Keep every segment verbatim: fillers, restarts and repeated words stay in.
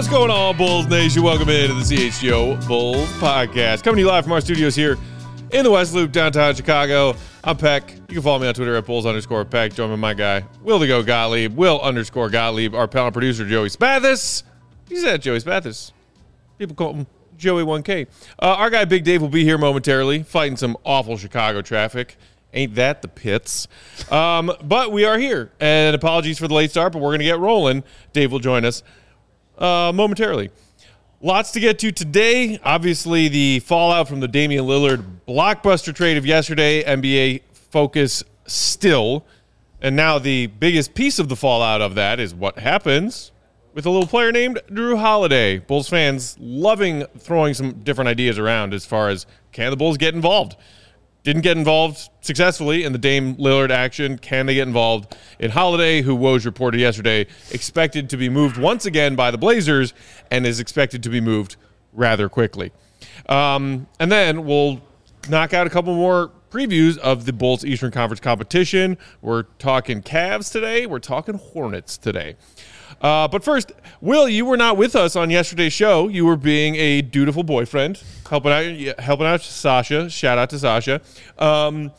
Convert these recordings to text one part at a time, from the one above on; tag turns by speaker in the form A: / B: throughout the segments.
A: What's going on, Bulls Nation? Welcome into the C H G O Bulls Podcast. Coming to you live from our studios here in the West Loop, downtown Chicago. I'm Peck. You can follow me on Twitter at Bulls underscore Peck. Join me, my guy, Will the Go Gottlieb, Will underscore Gottlieb, our panel producer, Joey Spathis. He's at Joey Spathis. People call him Joey one K. Uh, our guy, Big Dave, will be here momentarily, fighting some awful Chicago traffic. Ain't that the pits? Um, but we are here, and apologies for the late start, but we're going to get rolling. Dave will join us uh, momentarily. Lots to get to today. Obviously, the fallout from the Damian Lillard blockbuster trade of yesterday, N B A focus still. And now the biggest piece of the fallout of that is what happens with a little player named Jrue Holiday. Bulls fans loving throwing some different ideas around as far as, can the Bulls get involved? Didn't get involved successfully in the Dame Lillard action. Can they get involved in Holiday, who Woj reported yesterday, expected to be moved once again by the Blazers and is expected to be moved rather quickly. Um, and then we'll knock out a couple more previews of the Bulls Eastern Conference competition. We're talking Cavs today. We're talking Hornets today. Uh, but first, Will, you were not with us on yesterday's show. You were being a dutiful boyfriend, helping out, helping out Sasha. Shout out to Sasha. Um,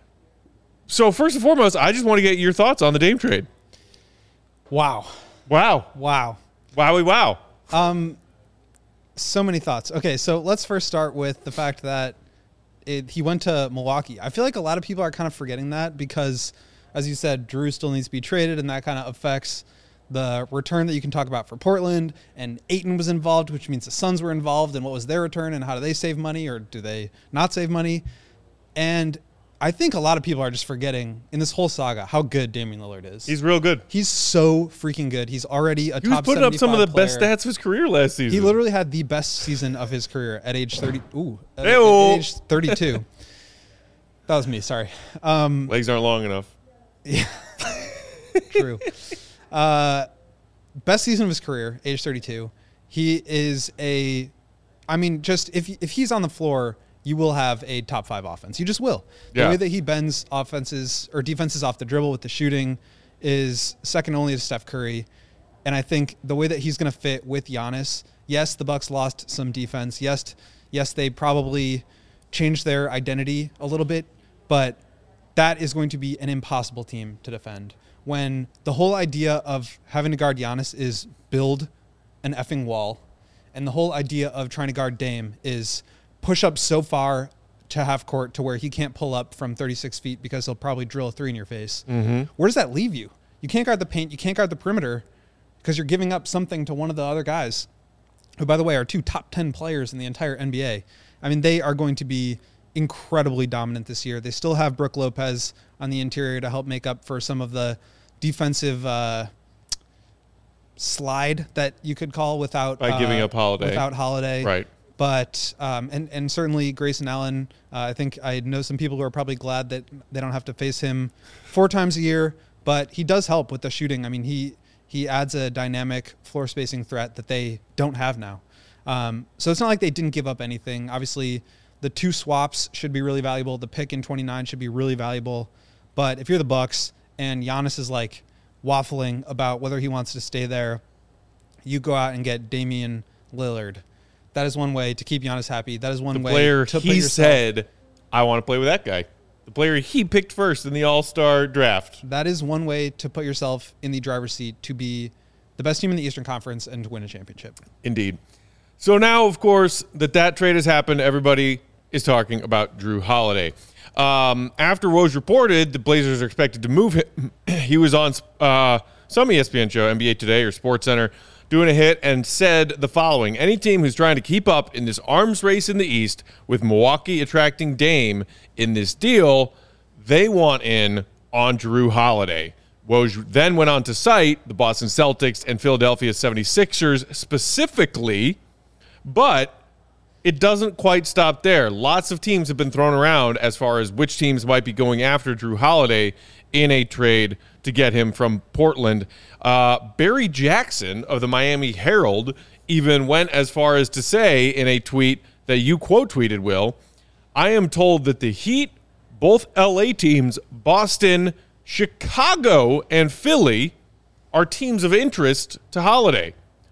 A: so first and foremost, I just want to get your thoughts on the Dame trade.
B: Wow.
A: Wow.
B: Wow.
A: Wowie wow.
B: Um, so many thoughts. Okay, so let's first start with the fact that it, he went to Milwaukee. I feel like a lot of people are kind of forgetting that because, as you said, Jrue still needs to be traded, and that kind of affects the return that you can talk about for Portland. And Ayton was involved, which means the Suns were involved, and what was their return, and how do they save money, or do they not save money? And I think a lot of people are just forgetting in this whole saga how good Damian Lillard is.
A: He's real good.
B: He's so freaking good. He's already a
A: he
B: top
A: was putting up some of the
B: player.
A: best stats of his career last season.
B: He literally had the best season of his career at age thirty. Ooh, at, at
A: Hey-o.
B: age thirty-two. That was me. Sorry. Um,
A: Legs aren't long enough.
B: Yeah, true. Uh, best season of his career, age thirty-two. He is a, I mean, just if if he's on the floor, you will have a top five offense. You just will. The
A: yeah.
B: way that he bends offenses or defenses off the dribble with the shooting is second only to Steph Curry. And I think the way that he's going to fit with Giannis, yes, the Bucks lost some defense. Yes, yes, they probably changed their identity a little bit, but that is going to be an impossible team to defend. When the whole idea of having to guard Giannis is build an effing wall, and the whole idea of trying to guard Dame is push up so far to half court to where he can't pull up from thirty-six feet because he'll probably drill a three in your face.
A: Mm-hmm.
B: Where does that leave you? You can't guard the paint. You can't guard the perimeter because you're giving up something to one of the other guys, who, by the way, are two top ten players in the entire N B A. I mean, they are going to be incredibly dominant this year. They still have Brook Lopez on the interior to help make up for some of the defensive uh, slide that you could call without
A: by giving
B: uh,
A: up Holiday.
B: Without Holiday,
A: right?
B: But um, and and certainly Grayson Allen. Uh, I think I know some people who are probably glad that they don't have to face him four times a year. But he does help with the shooting. I mean, he he adds a dynamic floor spacing threat that they don't have now. Um, so it's not like they didn't give up anything. Obviously, the two swaps should be really valuable. The pick in twenty-nine should be really valuable. But if you're the Bucks and Giannis is like waffling about whether he wants to stay there, you go out and get Damian Lillard. That is one way to keep Giannis happy. That is one
A: the
B: way
A: player
B: to
A: he
B: put yourself,
A: said, I want to play with that guy. The player he picked first in the All-Star draft.
B: That is one way to put yourself in the driver's seat to be the best team in the Eastern Conference and to win a championship.
A: Indeed. So now, of course, that that trade has happened, everybody is talking about Jrue Holiday. Um, after Woj reported the Blazers are expected to move him, he was on uh, some E S P N show, N B A Today or SportsCenter, doing a hit and said the following: any team who's trying to keep up in this arms race in the East with Milwaukee attracting Dame in this deal, they want in on Jrue Holiday. Woj then went on to cite the Boston Celtics and Philadelphia seventy-sixers specifically, but it doesn't quite stop there. Lots of teams have been thrown around as far as which teams might be going after Jrue Holiday in a trade to get him from Portland. Uh, Barry Jackson of the Miami Herald even went as far as to say in a tweet that you quote tweeted, Will, I am told that the Heat, both L A teams, Boston, Chicago, and Philly are teams of interest to Holiday.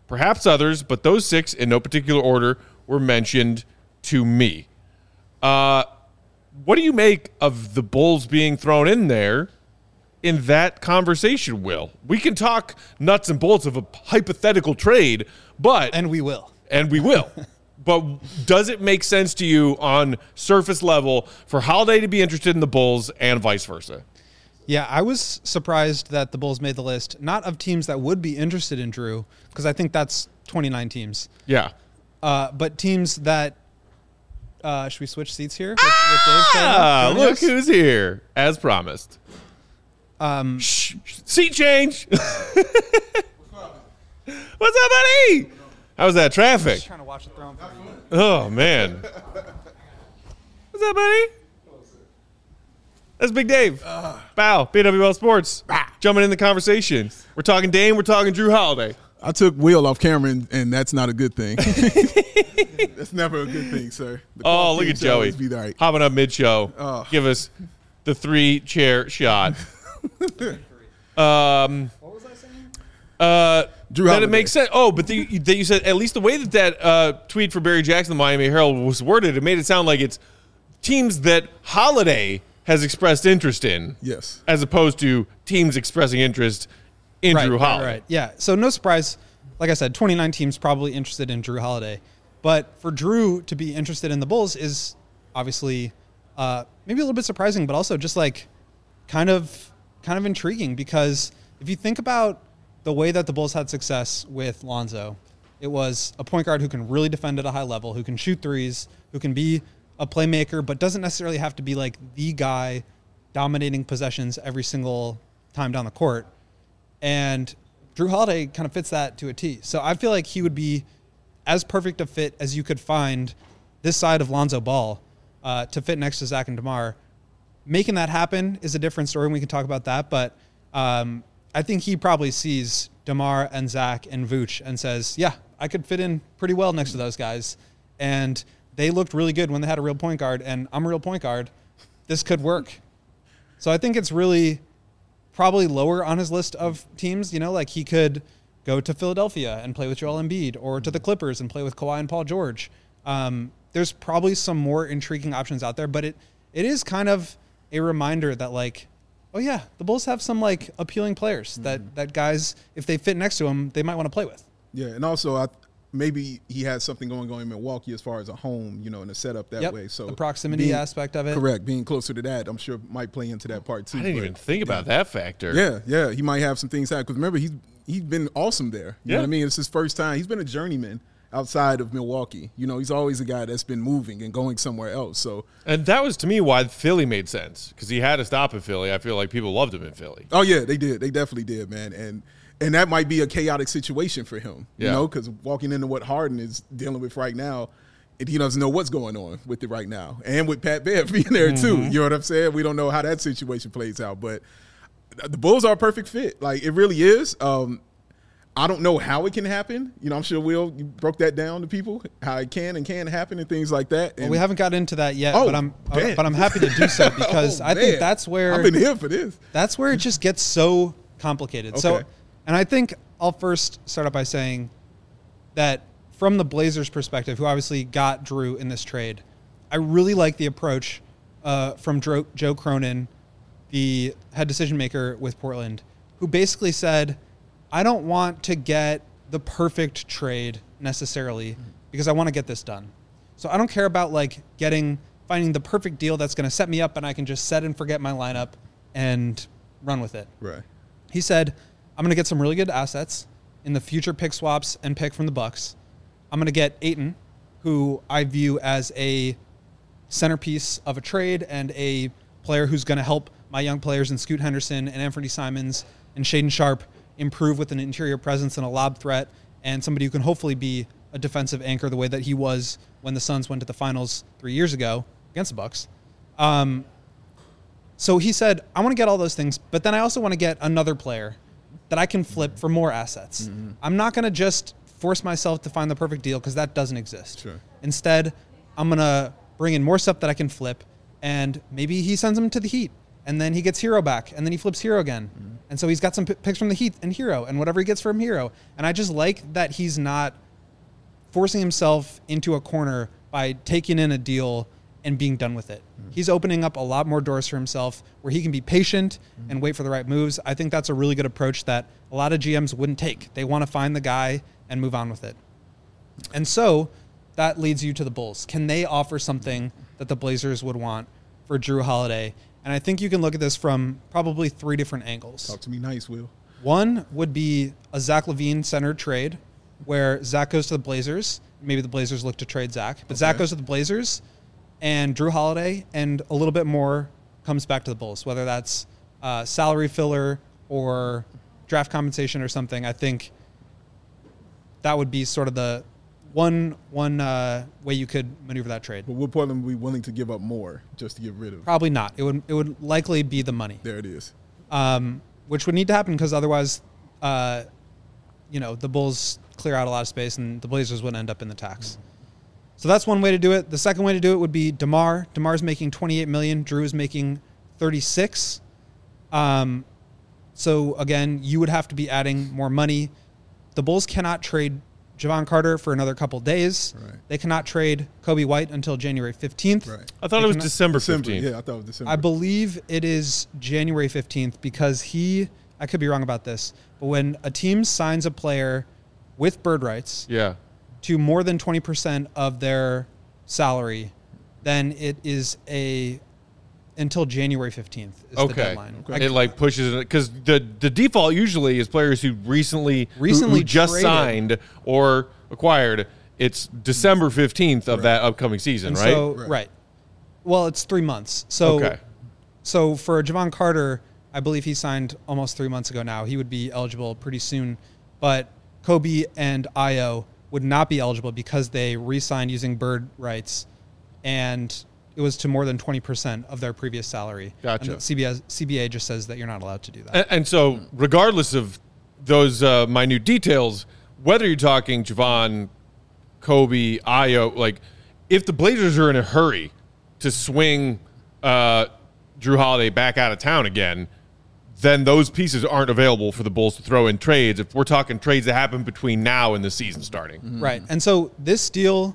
A: perhaps others, but those six in no particular order were mentioned to me. Uh, what do you make of the Bulls being thrown in there in that conversation, Will? We can talk nuts and bolts of a hypothetical trade, but
B: And we will.
A: and we will. But does it make sense to you on surface level for Holiday to be interested in the Bulls and vice versa?
B: Yeah, I was surprised that the Bulls made the list, not of teams that would be interested in Drew, because I think that's twenty-nine teams,
A: Yeah.
B: uh, but teams that uh, should we switch seats here? With, with Dave
A: Ah,
B: joining
A: look
B: us?
A: who's here, as promised.
B: Um,
A: Shh, seat change. What's up, buddy? How's that traffic?
B: Just trying to watch the throne for you.
A: Oh, man. What's up, buddy? That's Big Dave. Bow, B W L Sports. Jumping in the conversation. We're talking Dame, we're talking Drew Holiday.
C: I took Will off camera, and, and that's not a good thing. That's never a good thing, sir. The
A: Oh,
C: clock
A: look
C: team
A: at
C: should
A: Joey.
C: always Be right.
A: Hopping up mid-show.
C: Oh.
A: Give us the three-chair shot. um,
B: What was I saying?
A: uh,
C: Drew
A: that
C: Holiday.
A: it makes sense. Oh, but the, that you said, at least the way that that uh, tweet for Barry Jackson, the Miami Herald, was worded, it made it sound like it's teams that Holiday has expressed interest in,
C: Yes.
A: as opposed to teams expressing interest in
B: right,
A: Drew
B: right,
A: Holiday.
B: right. Yeah. So no surprise. Like I said, twenty-nine teams probably interested in Drew Holiday, but for Drew to be interested in the Bulls is obviously uh, maybe a little bit surprising, but also just like kind of kind of intriguing, because if you think about the way that the Bulls had success with Lonzo, it was a point guard who can really defend at a high level, who can shoot threes, who can be a playmaker, but doesn't necessarily have to be like the guy dominating possessions every single time down the court. And Drew Holiday kind of fits that to a T. So I feel like he would be as perfect a fit as you could find this side of Lonzo Ball uh, to fit next to Zach and DeMar. Making that happen is a different story, and we can talk about that. But um, I think he probably sees DeMar and Zach and Vooch and says, yeah, I could fit in pretty well next to those guys. And they looked really good when they had a real point guard, and I'm a real point guard. This could work. So I think it's really probably lower on his list of teams. You know, like he could go to Philadelphia and play with Joel Embiid, or to the Clippers and play with Kawhi and Paul George. Um, there's probably some more intriguing options out there, but it it is kind of a reminder that, like, oh yeah, the Bulls have some like appealing players mm-hmm. that that guys, if they fit next to them, they might want to play with.
C: Yeah, and also I maybe he has something going on in Milwaukee as far as a home, you know, and a setup that
B: Yep.
C: way. So
B: the proximity
C: being,
B: aspect of it.
C: correct, being closer to that, I'm sure might play into that part too.
A: I didn't
C: but,
A: even think about
C: yeah.
A: that factor.
C: Yeah, yeah, he might have some things happen because remember he's he's been awesome there. You
A: Yeah.
C: know what I mean? It's his first time. He's been a journeyman outside of Milwaukee. You know, he's always a guy that's been moving and going somewhere else. So,
A: And that was, to me, why Philly made sense, because he had to stop in Philly. I feel like people loved him in Philly.
C: oh yeah, they did. They definitely did, man. And and that might be a chaotic situation for him. You
A: Yeah.
C: know, because walking into what Harden is dealing with right now, and he doesn't know what's going on with it right now, and with Pat Bev being there too.
A: Mm-hmm.
C: You know what I'm saying? We don't know how that situation plays out, but the Bulls are a perfect fit. Like it really is. Um, I don't know how it can happen. You know, I'm sure Will you broke that down to people how it can and can happen and things like that. And
B: Well, we haven't got into that yet,
C: Oh,
B: but I'm
C: man.
B: but I'm happy to do so because
C: Oh,
B: I think
C: man.
B: that's where
C: I've been here for this.
B: that's where it just gets so complicated. So,
C: Okay.
B: and I think I'll first start out by saying that from the Blazers' perspective, who obviously got Drew in this trade, I really like the approach uh, from Dro- Joe Cronin, the head decision maker with Portland, who basically said, I don't want to get the perfect trade necessarily because I want to get this done. So I don't care about like getting, finding the perfect deal that's going to set me up and I can just set and forget my lineup and run with it.
C: Right.
B: He said, I'm going to get some really good assets in the future pick swaps and pick from the Bucks. I'm going to get Ayton, who I view as a centerpiece of a trade and a player who's going to help my young players in Scoot Henderson and Anthony Simons and Shaden Sharp improve with an interior presence and a lob threat, and somebody who can hopefully be a defensive anchor the way that he was when the Suns went to the finals three years ago against the Bucks. Um, so he said, I want to get all those things, but then I also want to get another player that I can flip for more assets. Mm-hmm. I'm not going to just force myself to find the perfect deal because that doesn't exist.
C: Sure.
B: Instead, I'm going to bring in more stuff that I can flip, and maybe he sends him to the Heat, and then he gets Hero back, and then he flips Hero again. Mm-hmm. And so he's got some p- picks from the Heat and Hero and whatever he gets from Hero. And I just like that he's not forcing himself into a corner by taking in a deal and being done with it. Mm. He's opening up a lot more doors for himself where he can be patient mm. and wait for the right moves. I think that's a really good approach that a lot of G Ms wouldn't take. They want to find the guy and move on with it. And so that leads you to the Bulls. Can they offer something that the Blazers would want for Jrue Holiday? And I think you can look at this from probably three different angles.
C: Talk to me nice, Will.
B: One would be a Zach LaVine centered trade where Zach goes to the Blazers. Maybe the Blazers look to trade Zach. But okay. Zach goes to the Blazers and Jrue Holiday and a little bit more comes back to the Bulls, whether that's uh, salary filler or draft compensation or something. I think that would be sort of the one one uh, way you could maneuver that trade.
C: But would Portland be willing to give up more just to get rid of it?
B: Probably not. It would it would likely be the money.
C: There it is.
B: Um, which would need to happen because otherwise, uh, you know, the Bulls clear out a lot of space and the Blazers would end up in the tax. Mm-hmm. So that's one way to do it. The second way to do it would be DeMar. DeMar's making twenty-eight million dollars. Jrue is making thirty-six. Um, so again, you would have to be adding more money. The Bulls cannot trade Javon Carter for another couple days. Right. They cannot trade Kobe White until January fifteenth.
C: Right.
A: I thought
B: they
A: it was
B: cannot,
A: December
C: December
A: fifteenth.
C: Yeah, I thought it was December.
B: I believe it is January fifteenth because he, I could be wrong about this, but when a team signs a player with bird rights
A: yeah.
B: to more than twenty percent of their salary, then it is a until January fifteenth is
A: okay.
B: the deadline.
A: Okay. It like pushes it because the the default usually is players who recently
B: recently
A: who, who just
B: traded.
A: signed or acquired. It's December fifteenth of right. that upcoming season,
B: and
A: right?
B: So, right? Right. Well, it's three months. So,
A: okay.
B: so for Javon Carter, I believe he signed almost three months ago now. He would be eligible pretty soon, but Kobe and Ayo would not be eligible because they re-signed using bird rights, and it was to more than twenty percent of their previous salary.
A: Gotcha.
B: And C B A, C B A just says that you're not allowed to do that.
A: And, and so regardless of those uh, minute details, whether you're talking Javon, Kobe, Ayo, like if the Blazers are in a hurry to swing uh, Jrue Holiday back out of town again, then those pieces aren't available for the Bulls to throw in trades if we're talking trades that happen between now and the season starting.
B: Mm-hmm. Right. And so this deal,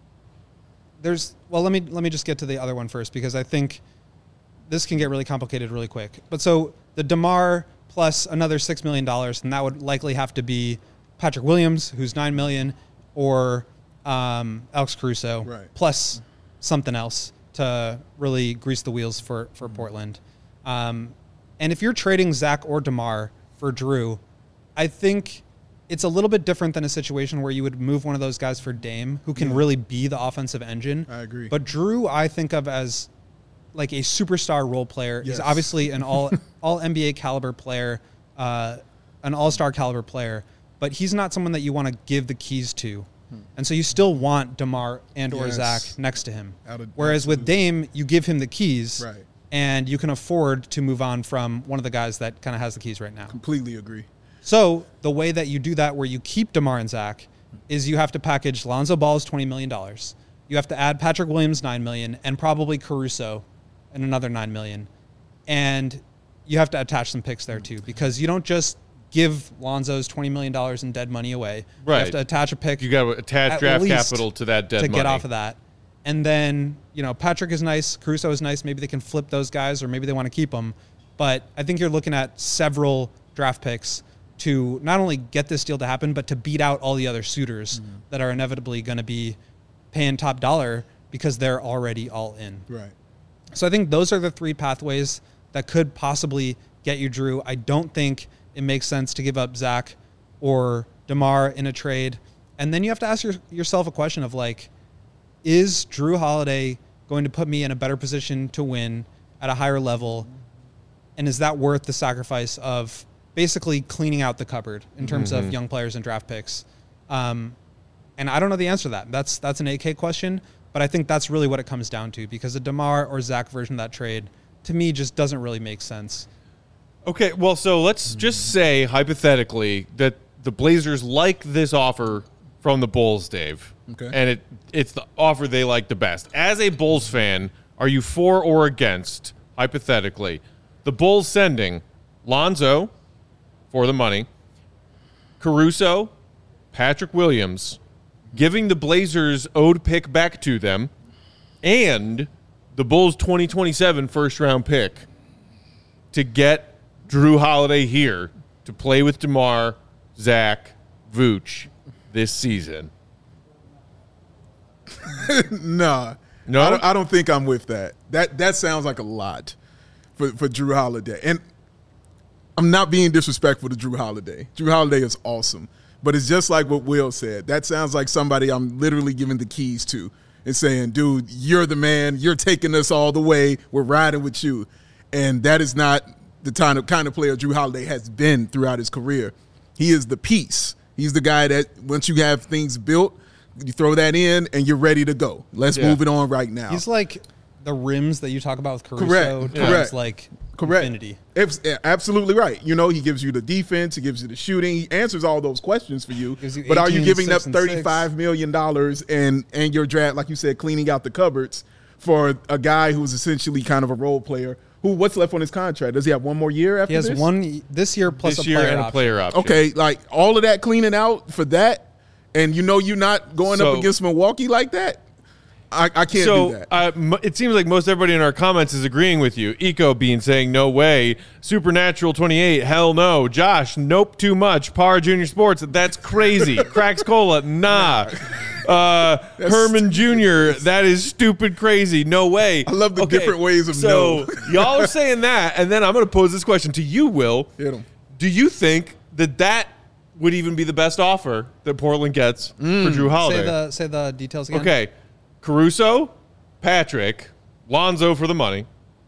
B: there's, well, let me let me just get to the other one first because I think this can get really complicated really quick. But so the DeMar plus another six million dollars, and that would likely have to be Patrick Williams, who's nine million dollars, or um, Alex Caruso,
C: right.
B: plus something else to really grease the wheels for, for mm-hmm. Portland. Um, and if you're trading Zach or DeMar for Jrue, I think it's a little bit different than a situation where you would move one of those guys for Dame, who can yeah. really be the offensive engine.
C: I agree.
B: But Jrue, I think of as like a superstar role player.
C: Yes.
B: He's obviously an all all N B A caliber player, uh, an all-star caliber player, but he's not someone that you want to give the keys to. Hmm. And so you still want DeMar and or
C: yes.
B: Zach next to him.
C: Of,
B: Whereas with Dame, you give him the keys.
C: Right.
B: And you can afford to move on from one of the guys that kind of has the keys right now.
C: Completely agree.
B: So the way that you do that where you keep DeMar and Zach is you have to package Lonzo Ball's twenty million dollars. You have to add Patrick Williams nine million dollars and probably Caruso and another nine million dollars. And you have to attach some picks there too because you don't just give Lonzo's twenty million dollars in dead money away.
A: Right.
B: You have to attach a pick.
A: You got to attach draft capital to that dead
B: to
A: money.
B: get off of that. And then, you know, Patrick is nice. Caruso is nice. Maybe they can flip those guys or maybe they want to keep them. But I think you're looking at several draft picks to not only get this deal to happen, but to beat out all the other suitors mm-hmm. that are inevitably going to be paying top dollar because they're already all in.
C: Right.
B: So I think those are the three pathways that could possibly get you Jrue. I don't think it makes sense to give up Zach or DeMar in a trade. And then you have to ask your, yourself a question of like, is Jrue Holiday going to put me in a better position to win at a higher level? And is that worth the sacrifice of basically cleaning out the cupboard in terms mm-hmm. of young players and draft picks? Um, and I don't know the answer to that. That's that's an A K question, but I think that's really what it comes down to because a DeMar or Zach version of that trade, to me, just doesn't really make sense.
A: Okay, well, so let's just say, hypothetically, that the Blazers like this offer from the Bulls, Dave.
C: Okay.
A: And it it's the offer they like the best. As a Bulls fan, are you for or against, hypothetically, the Bulls sending Lonzo, for the money. Caruso, Patrick Williams, giving the Blazers owed pick back to them, and the Bulls' twenty twenty-seven first-round pick to get Drew Holiday here to play with DeMar, Zach, Vooch this season.
C: Nah.
A: No?
C: I don't, I don't think I'm with that. That that sounds like a lot for, for Drew Holiday. And I'm not being disrespectful to Drew Holiday. Drew Holiday is awesome. But it's just like what Will said. That sounds like somebody I'm literally giving the keys to and saying, dude, you're the man. You're taking us all the way. We're riding with you. And that is not the kind of, kind of player Drew Holiday has been throughout his career. He is the piece. He's the guy that once you have things built, you throw that in and you're ready to go. Let's
A: Yeah.
C: move it on right now.
B: He's like the rims that you talk about with Caruso.
C: Correct.
B: Times
C: Correct.
B: like
C: Correct.
B: infinity.
C: It's absolutely right. You know, he gives you the defense, he gives you the shooting, he answers all those questions for you.
B: Gives you
C: But are you
B: eighteen,
C: giving up
B: six, and six.
C: thirty-five million dollars and and your draft, like you said, cleaning out the cupboards for a guy who's essentially kind of a role player? Who what's left on his contract? Does he have one more year after
B: He has
C: this?
B: one this year plus
A: This
B: a
A: year
B: player
A: and a
B: option.
A: player option.
C: Okay, like all of that cleaning out for that, and you know you're not going
A: So-
C: up against Milwaukee like that. I, I can't
A: so
C: do that.
A: uh, m- it seems like most everybody in our comments is agreeing with you. Eco Bean saying no way. Supernatural twenty-eight, hell no. Josh, nope, too much. Par Junior Sports, that's crazy. Cracks Cola, nah. Uh, Herman Junior, that is stupid crazy. No way.
C: I love the different ways of
A: so
C: no.
A: y'all are saying that, and then I'm going to pose this question to you, Will.
C: Hit 'em.
A: Do you think that that would even be the best offer that Portland gets for Drew Holiday?
B: Say the say the details again.
A: Okay, Caruso, Patrick, Lonzo for the money,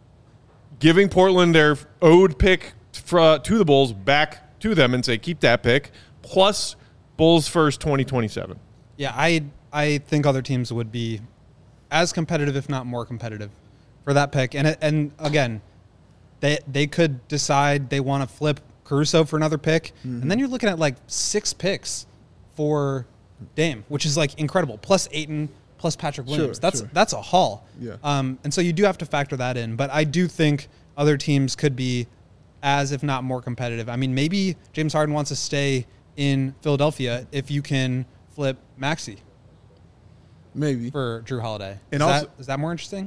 A: giving Portland their owed pick for, to the Bulls back to them and say keep that pick, plus Bulls first twenty twenty-seven.
B: Yeah, I I think other teams would be as competitive, if not more competitive, for that pick. And it, and again, they they could decide they want to flip Caruso for another pick,
C: Mm-hmm.
B: and then you're looking at like six picks for Dame, which is like incredible. Plus Ayton, plus Patrick Williams.
C: Sure,
B: that's
C: sure.
B: that's a haul.
C: Yeah.
B: Um, and so you do have to factor that in. But I do think other teams could be as, if not more competitive. I mean, maybe James Harden wants to stay in Philadelphia if you can flip Maxey
C: Maybe.
B: for Drew Holiday.
C: And
B: is,
C: also-
B: that, is that more interesting?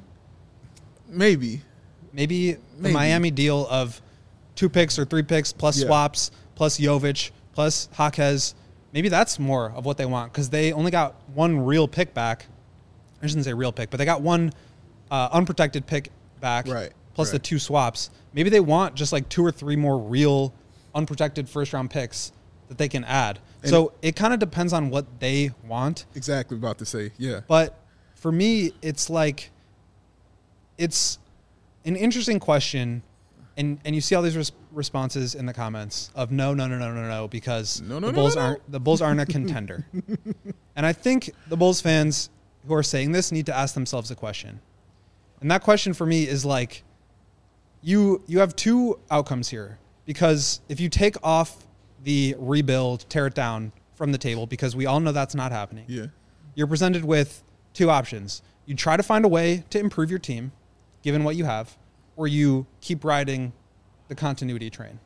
C: Maybe.
B: Maybe the
C: Maybe.
B: Miami deal of two picks or three picks plus
C: Yeah.
B: swaps plus Jovic plus Jaquez. Maybe that's more of what they want because they only got one real pick back. I shouldn't say real pick, but they got one uh, unprotected pick back
C: Right,
B: plus the
C: right.
B: two swaps. Maybe they want just like two or three more real unprotected first round picks that they can add.
C: And-
B: so it kind of depends on what they want.
C: Exactly about to say. Yeah.
B: But for me, it's like it's an interesting question, and and you see all these res- responses in the comments of no, no, no, no, no, no, because
C: No, no,
B: the
C: no,
B: Bulls
C: no, no.
B: aren't the Bulls aren't a contender. And I think the Bulls fans who are saying this need to ask themselves a question, and that question for me is like, you you have two outcomes here because if you take off the rebuild, tear it down from the table, because we all know that's not happening.
C: Yeah.
B: You're presented with two options. You try to find a way to improve your team, given what you have, or you keep riding the continuity train.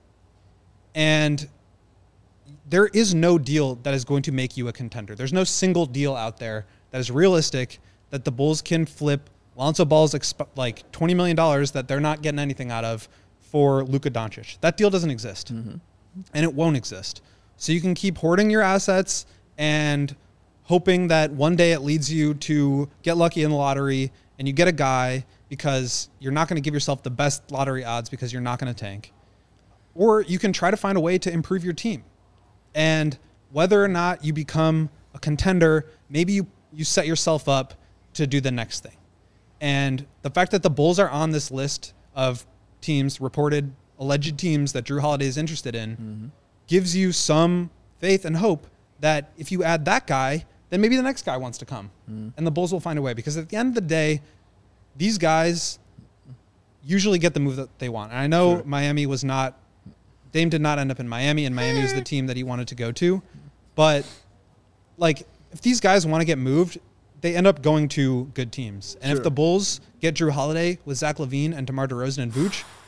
B: And there is no deal that is going to make you a contender. There's no single deal out there that is realistic that the Bulls can flip Lonzo Ball's exp- like twenty million dollars that they're not getting anything out of for Luka Doncic. That deal doesn't exist. And it won't exist. So you can keep hoarding your assets and hoping that one day it leads you to get lucky in the lottery and you get a guy because you're not going to give yourself the best lottery odds because you're not going to tank. Or you can try to find a way to improve your team. And whether or not you become a contender, maybe you, you set yourself up to do the next thing. And the fact that the Bulls are on this list of teams, reported alleged teams that Drew Holiday is interested in,
C: Mm-hmm.
B: gives you some faith and hope that if you add that guy, then maybe the next guy wants to come.
C: Mm-hmm.
B: And the Bulls will find a way. Because at the end of the day, these guys usually get the move that they want. And I know
C: Sure.
B: Miami was not, Dame did not end up in Miami, and Miami was the team that he wanted to go to. But, like, if these guys want to get moved, they end up going to good teams. And
C: Sure.
B: if the Bulls get Drew Holiday with Zach LaVine and DeMar DeRozan and Vooch,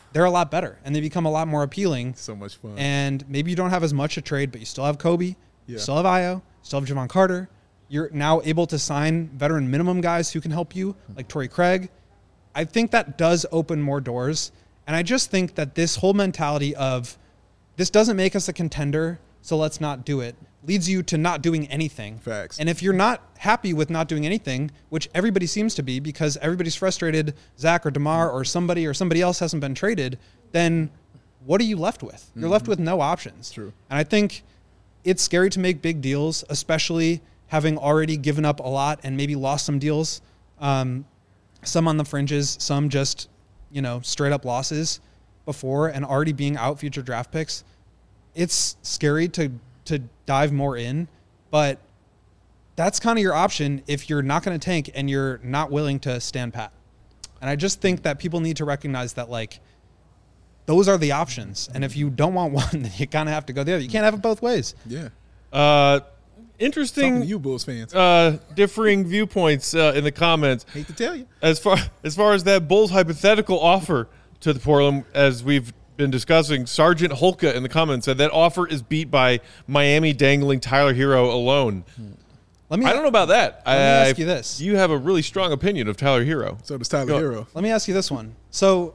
B: they're a lot better and they become a lot more appealing.
C: So much fun.
B: And maybe you don't have as much to trade, but you still have Kobe,
C: Yeah.
B: you still have Io, you still have Javon Carter. You're now able to sign veteran minimum guys who can help you, like Torrey Craig. I think that does open more doors. And I just think that this whole mentality of this doesn't make us a contender, so let's not do it, leads you to not doing anything.
C: Facts.
B: And if you're not happy with not doing anything, which everybody seems to be because everybody's frustrated, Zach or DeMar or somebody or somebody else hasn't been traded, then what are you left with? You're mm-hmm. left with no options.
C: True.
B: And I think it's scary to make big deals, especially having already given up a lot and maybe lost some deals, um, some on the fringes, some just, you know, straight up losses before and already being out future draft picks. It's scary to to dive more in, but that's kind of your option if you're not going to tank and you're not willing to stand pat. And I just think that people need to recognize that, like, those are the options. And if you don't want one, then you kind of have to go the other. You can't have it both ways.
C: Yeah.
A: Uh, interesting.
C: Talking to you, Bulls fans.
A: Uh, differing viewpoints uh, in the comments.
C: Hate to tell you.
A: As far as far as that Bulls hypothetical offer to the Portland, as we've been discussing, Sergeant Holka in the comments said that offer is beat by Miami dangling Tyler Hero alone.
B: Let me.
A: I don't know about that.
B: Let
A: I,
B: me ask you this.
A: You have a really strong opinion of Tyler Hero.
C: So does Tyler
A: Go.
C: Hero.
B: Let me ask you this one. So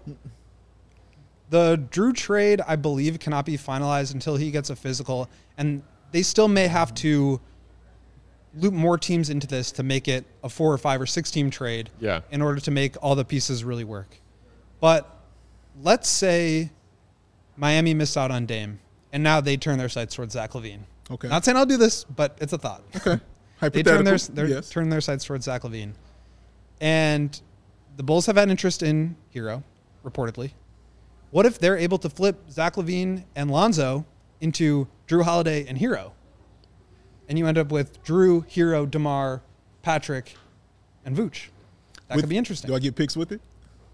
B: the Drew trade, I believe, cannot be finalized until he gets a physical, and they still may have to loop more teams into this to make it a four or five or six team trade
A: Yeah.
B: in order to make all the pieces really work. But let's say Miami missed out on Dame, and now they turn their sights towards Zach LaVine.
C: Okay.
B: Not saying I'll do this, but it's a thought.
C: Okay.
B: They turn their,
C: Hypothetical.
B: their
C: yes.
B: turn their sights towards Zach LaVine. And the Bulls have had interest in Hero, reportedly. What if they're able to flip Zach LaVine and Lonzo into Drew Holiday and Hero? And you end up with Drew, Hero, DeMar, Patrick, and Vooch. That
C: With-
B: could be interesting.
C: Do I get picks with it?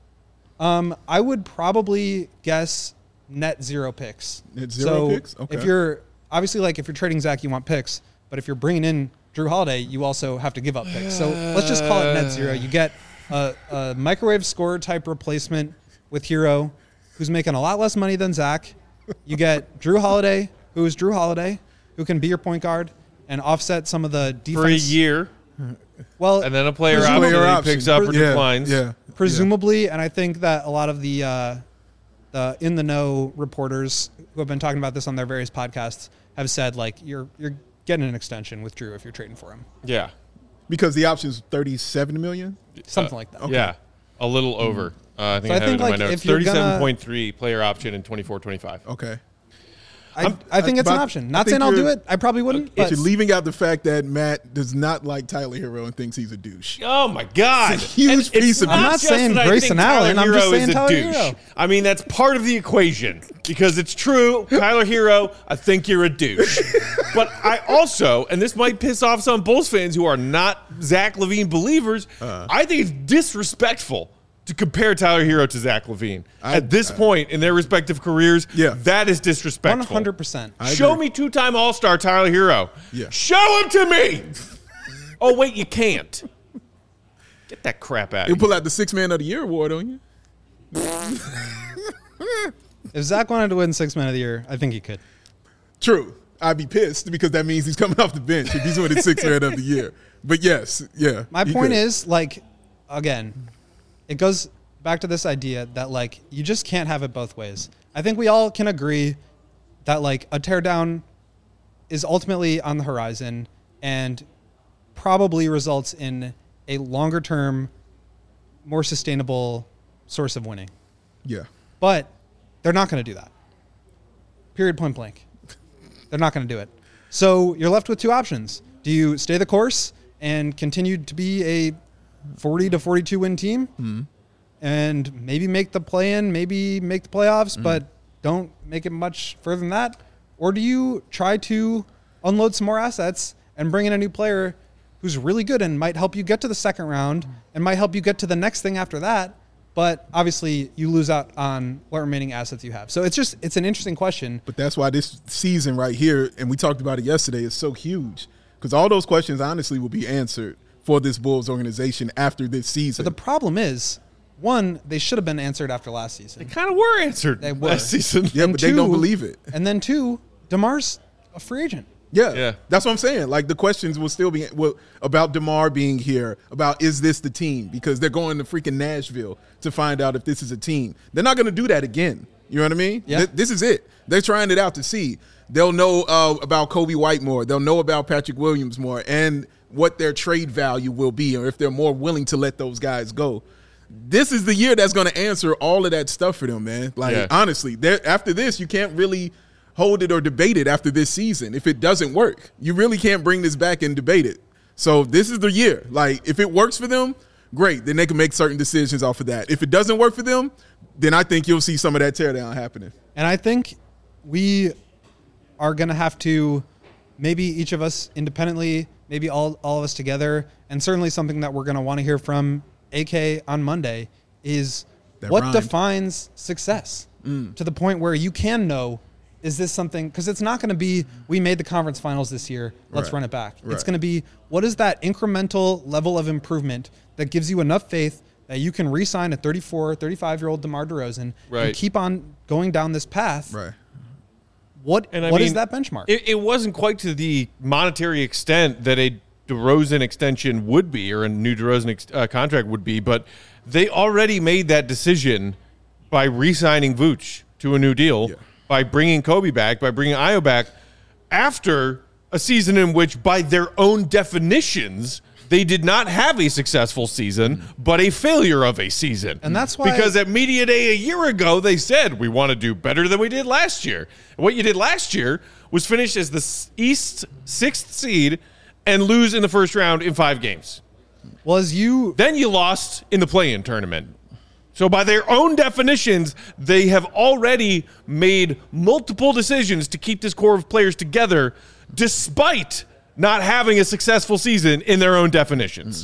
B: Um, I would probably guess net zero picks.
C: Net zero
B: so
C: picks? Okay.
B: If you're obviously like if you're trading Zach, you want picks, but if you're bringing in Drew Holiday, you also have to give up picks. So let's just call it net zero. You get a, a microwave scorer type replacement with Hero, who's making a lot less money than Zach. You get Drew Holiday, who is Drew Holiday, who can be your point guard and offset some of the defense
A: For a year,
B: Well,
A: and then a player
B: Presumably-
A: option
C: Player
A: that he
C: option.
A: picks up or
C: yeah,
A: declines.
C: Yeah.
B: presumably, and I think that a lot of the uh, the in the know reporters who have been talking about this on their various podcasts have said like you're you're getting an extension with Drew if you're trading for him,
A: Yeah.
C: Because the option's thirty-seven million.
B: something
A: Uh,
B: like that.
A: Yeah. A little over. Uh, I think
B: So
A: I,
B: I
A: have
B: think,
A: it in
B: like,
A: my notes.
B: if you're gonna-
A: thirty-seven point three player option in twenty-four twenty-five.
C: Okay.
B: I,
C: I'm-
B: I think it's an
C: but
B: option.
C: I
B: Not
C: think
B: saying I'll do
C: you're-
B: it. I probably wouldn't.
C: But
B: But
C: you're leaving out the fact that Matt does not like Tyler Hero and thinks he's a douche.
A: Oh my God!
C: It's a huge
A: And it's
C: piece of
A: not
C: I'm
B: not
A: just
B: saying
A: that I
B: Grayson
A: think
B: Allen,
A: Tyler
B: I'm just
A: Hero
B: saying
A: is a
B: Tyler
A: douche.
B: Hero.
A: I mean, that's part of the equation because it's true. Tyler Hero, I think you're a douche. But I also, and this might piss off some Bulls fans who are not Zach LaVine believers,
C: Uh-huh.
A: I think it's disrespectful to compare Tyler Hero to Zach LaVine
C: I-
A: at this
C: I-
A: point in their respective careers.
C: Yeah.
A: that is disrespectful.
B: one hundred percent.
C: I
A: Show
C: agree.
A: me two-time All-Star Tyler Hero.
C: Yeah.
A: Show him to me. Oh wait, you can't. Get that crap out
C: He'll
A: of here.
C: pull out the Six Man of the Year award on you.
B: If Zach wanted to win Six Man of the Year, I think he could.
C: True. I'd be pissed because that means he's coming off the bench if he's winning Six Man of the Year. But yes, yeah.
B: My
C: he
B: point
C: could.
B: is, like, again, it goes back to this idea that, like, you just can't have it both ways. I think we all can agree that, like, a teardown is ultimately on the horizon and probably results in a longer term, more sustainable source of winning.
C: Yeah.
B: But they're not going to do that. Period, point blank. They're not going to do it. So you're left with two options. Do you stay the course and continue to be a forty to forty-two win team
C: Mm-hmm.
B: and maybe make the play in, maybe make the playoffs,
C: Mm-hmm.
B: but don't make it much further than that? Or do you try to unload some more assets and bring in a new player who's really good and might help you get to the second round and might help you get to the next thing after that? But obviously you lose out on what remaining assets you have. So it's just, it's an interesting question.
C: But that's why this season right here, and we talked about it yesterday, is so huge. Because all those questions honestly will be answered for this Bulls organization after this season.
B: But the problem is one, they should have been answered after last season.
A: They kind of were answered
B: They were.
A: last season.
C: Yeah,
B: And
C: but they don't
B: two-
C: believe it.
B: And then two, DeMar's a free agent.
C: Yeah,
A: Yeah.
C: that's what I'm saying. Like the questions will still be will, about DeMar being here, about is this the team? Because they're going to freaking Nashville to find out if this is a team. They're not going to do that again. You know what I mean?
B: Yeah.
C: Th- this is it. They're trying it out to see. They'll know uh, about Kobe White more. They'll know about Patrick Williams more, and what their trade value will be, or if they're more willing to let those guys go. This is the year that's going to answer all of that stuff for them, man. Like
A: Yeah.
C: honestly, there- after this, you can't really hold it or debate it after this season. If it doesn't work, you really can't bring this back and debate it. So this is the year. Like if it works for them, great. Then they can make certain decisions off of that. If it doesn't work for them, then I think you'll see some of that teardown happening.
B: And I think we are going to have to, maybe each of us independently, maybe all, all of us together, and certainly something that we're going to want to hear from A K on Monday is
C: That
B: what
C: rhymed.
B: defines success to the point where you can know, is this something, because it's not going to be, we made the conference finals this year, let's
C: Right.
B: run it back. It's
C: Right.
B: going to be, what is that incremental level of improvement that gives you enough faith that you can re-sign a thirty-four, thirty-five-year-old DeMar DeRozan
A: Right.
B: and keep on going down this path?
C: Right.
B: What
A: And I
B: what is
A: mean,
B: that benchmark?
A: It, it wasn't quite to the monetary extent that a DeRozan extension would be, or a new DeRozan ex- uh, contract would be, but they already made that decision by re-signing Vooch to a new deal,
C: Yeah.
A: by bringing Kobe back, by bringing Ayo back, after a season in which, by their own definitions, they did not have a successful season, but a failure of a season.
B: And that's why-
A: Because at Media Day a year ago, they said, we want to do better than we did last year. And what you did last year was finish as the s- East sixth seed and lose in the first round in five games.
B: well, as you
A: Then you lost in the play-in tournament. So by their own definitions, they have already made multiple decisions to keep this core of players together despite not having a successful season in their own definitions.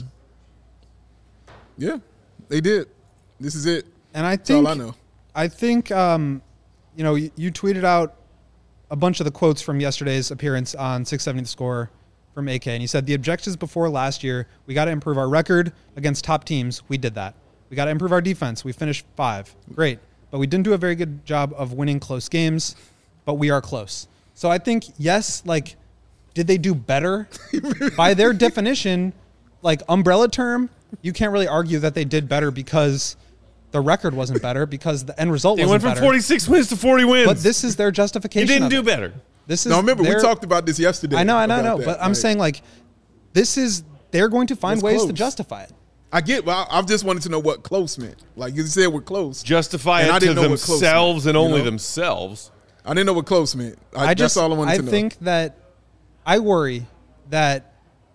C: Yeah, they did. This is it.
B: and I
C: That's all
B: think
C: I know.
B: I think um, you know you, you tweeted out a bunch of the quotes from yesterday's appearance on six seventy The Score from A K, and he said the objectives before last year, we got to improve our record against top teams. We did that. We got to improve our defense. We finished five. Great. But we didn't do a very good job of winning close games, but we are close. So I think, yes, like, did they do better? By their definition, like, umbrella term, you can't really argue that they did better because the record wasn't better, because the end result
A: They
B: wasn't
A: went from
B: better.
A: forty-six wins to forty wins.
B: But this is their
A: you
B: justification.
A: didn't
B: of
A: do
B: it.
A: better.
B: This is
C: Now remember, we
B: their-
C: talked about this yesterday.
B: I know, I know, I
C: about
B: know.
C: that.
B: But I'm
C: Like,
B: saying, like, this is, they're going to find
C: It's
B: ways to
C: close.
B: justify it.
C: I get. Well, I, I just wanted to know what close meant. Like you said, we're close.
A: Justify
C: And I
A: it to
C: didn't know what close
A: themselves
C: meant,
A: and
C: you
A: only
C: know?
A: themselves.
C: I didn't know what close meant. I,
B: I just,
C: that's all I wanted
B: I
C: to know.
B: think that I worry that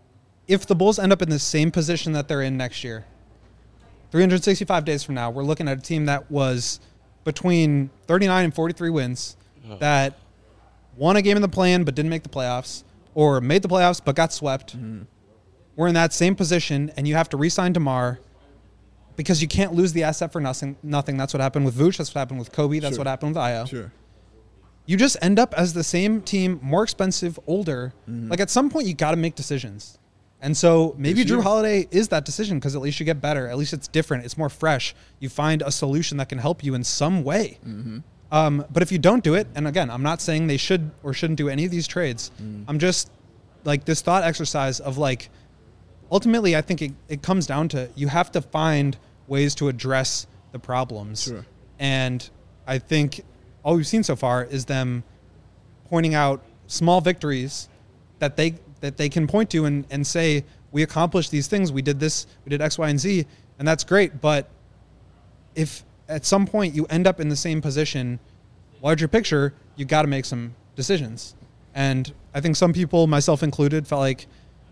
B: if the Bulls end up in the same position that they're in next year, three hundred sixty-five days from now, we're looking at a team that was between thirty-nine and forty-three wins, that won a game in the play-in but didn't make the playoffs, or made the playoffs but got swept.
C: Mm-hmm.
B: We're in that same position, and you have to re-sign DeMar because you can't lose the asset for nothing. Nothing. That's what happened with Vooch. That's what happened with Kobe. That's
C: Sure.
B: what happened with Ayo.
C: Sure.
B: You just end up as the same team, more expensive, older.
C: Mm-hmm.
B: Like at some point, you got to make decisions. And so maybe
C: This
B: Drew
C: year.
B: Holiday is that decision because at least you get better. At least it's different. It's more fresh. You find a solution that can help you in some way.
C: Mm-hmm.
B: Um, but if you don't do it, and again, I'm not saying they should or shouldn't do any of these trades.
C: Mm.
B: I'm just like this thought exercise of like, ultimately, I think it, it comes down to you have to find ways to address the problems.
C: Sure.
B: And I think all we've seen so far is them pointing out small victories that they that they can point to and, and say, we accomplished these things. We did this, we did X, Y, and Z, and that's great. But if at some point you end up in the same position, larger picture, you got to make some decisions. And I think some people, myself included, felt like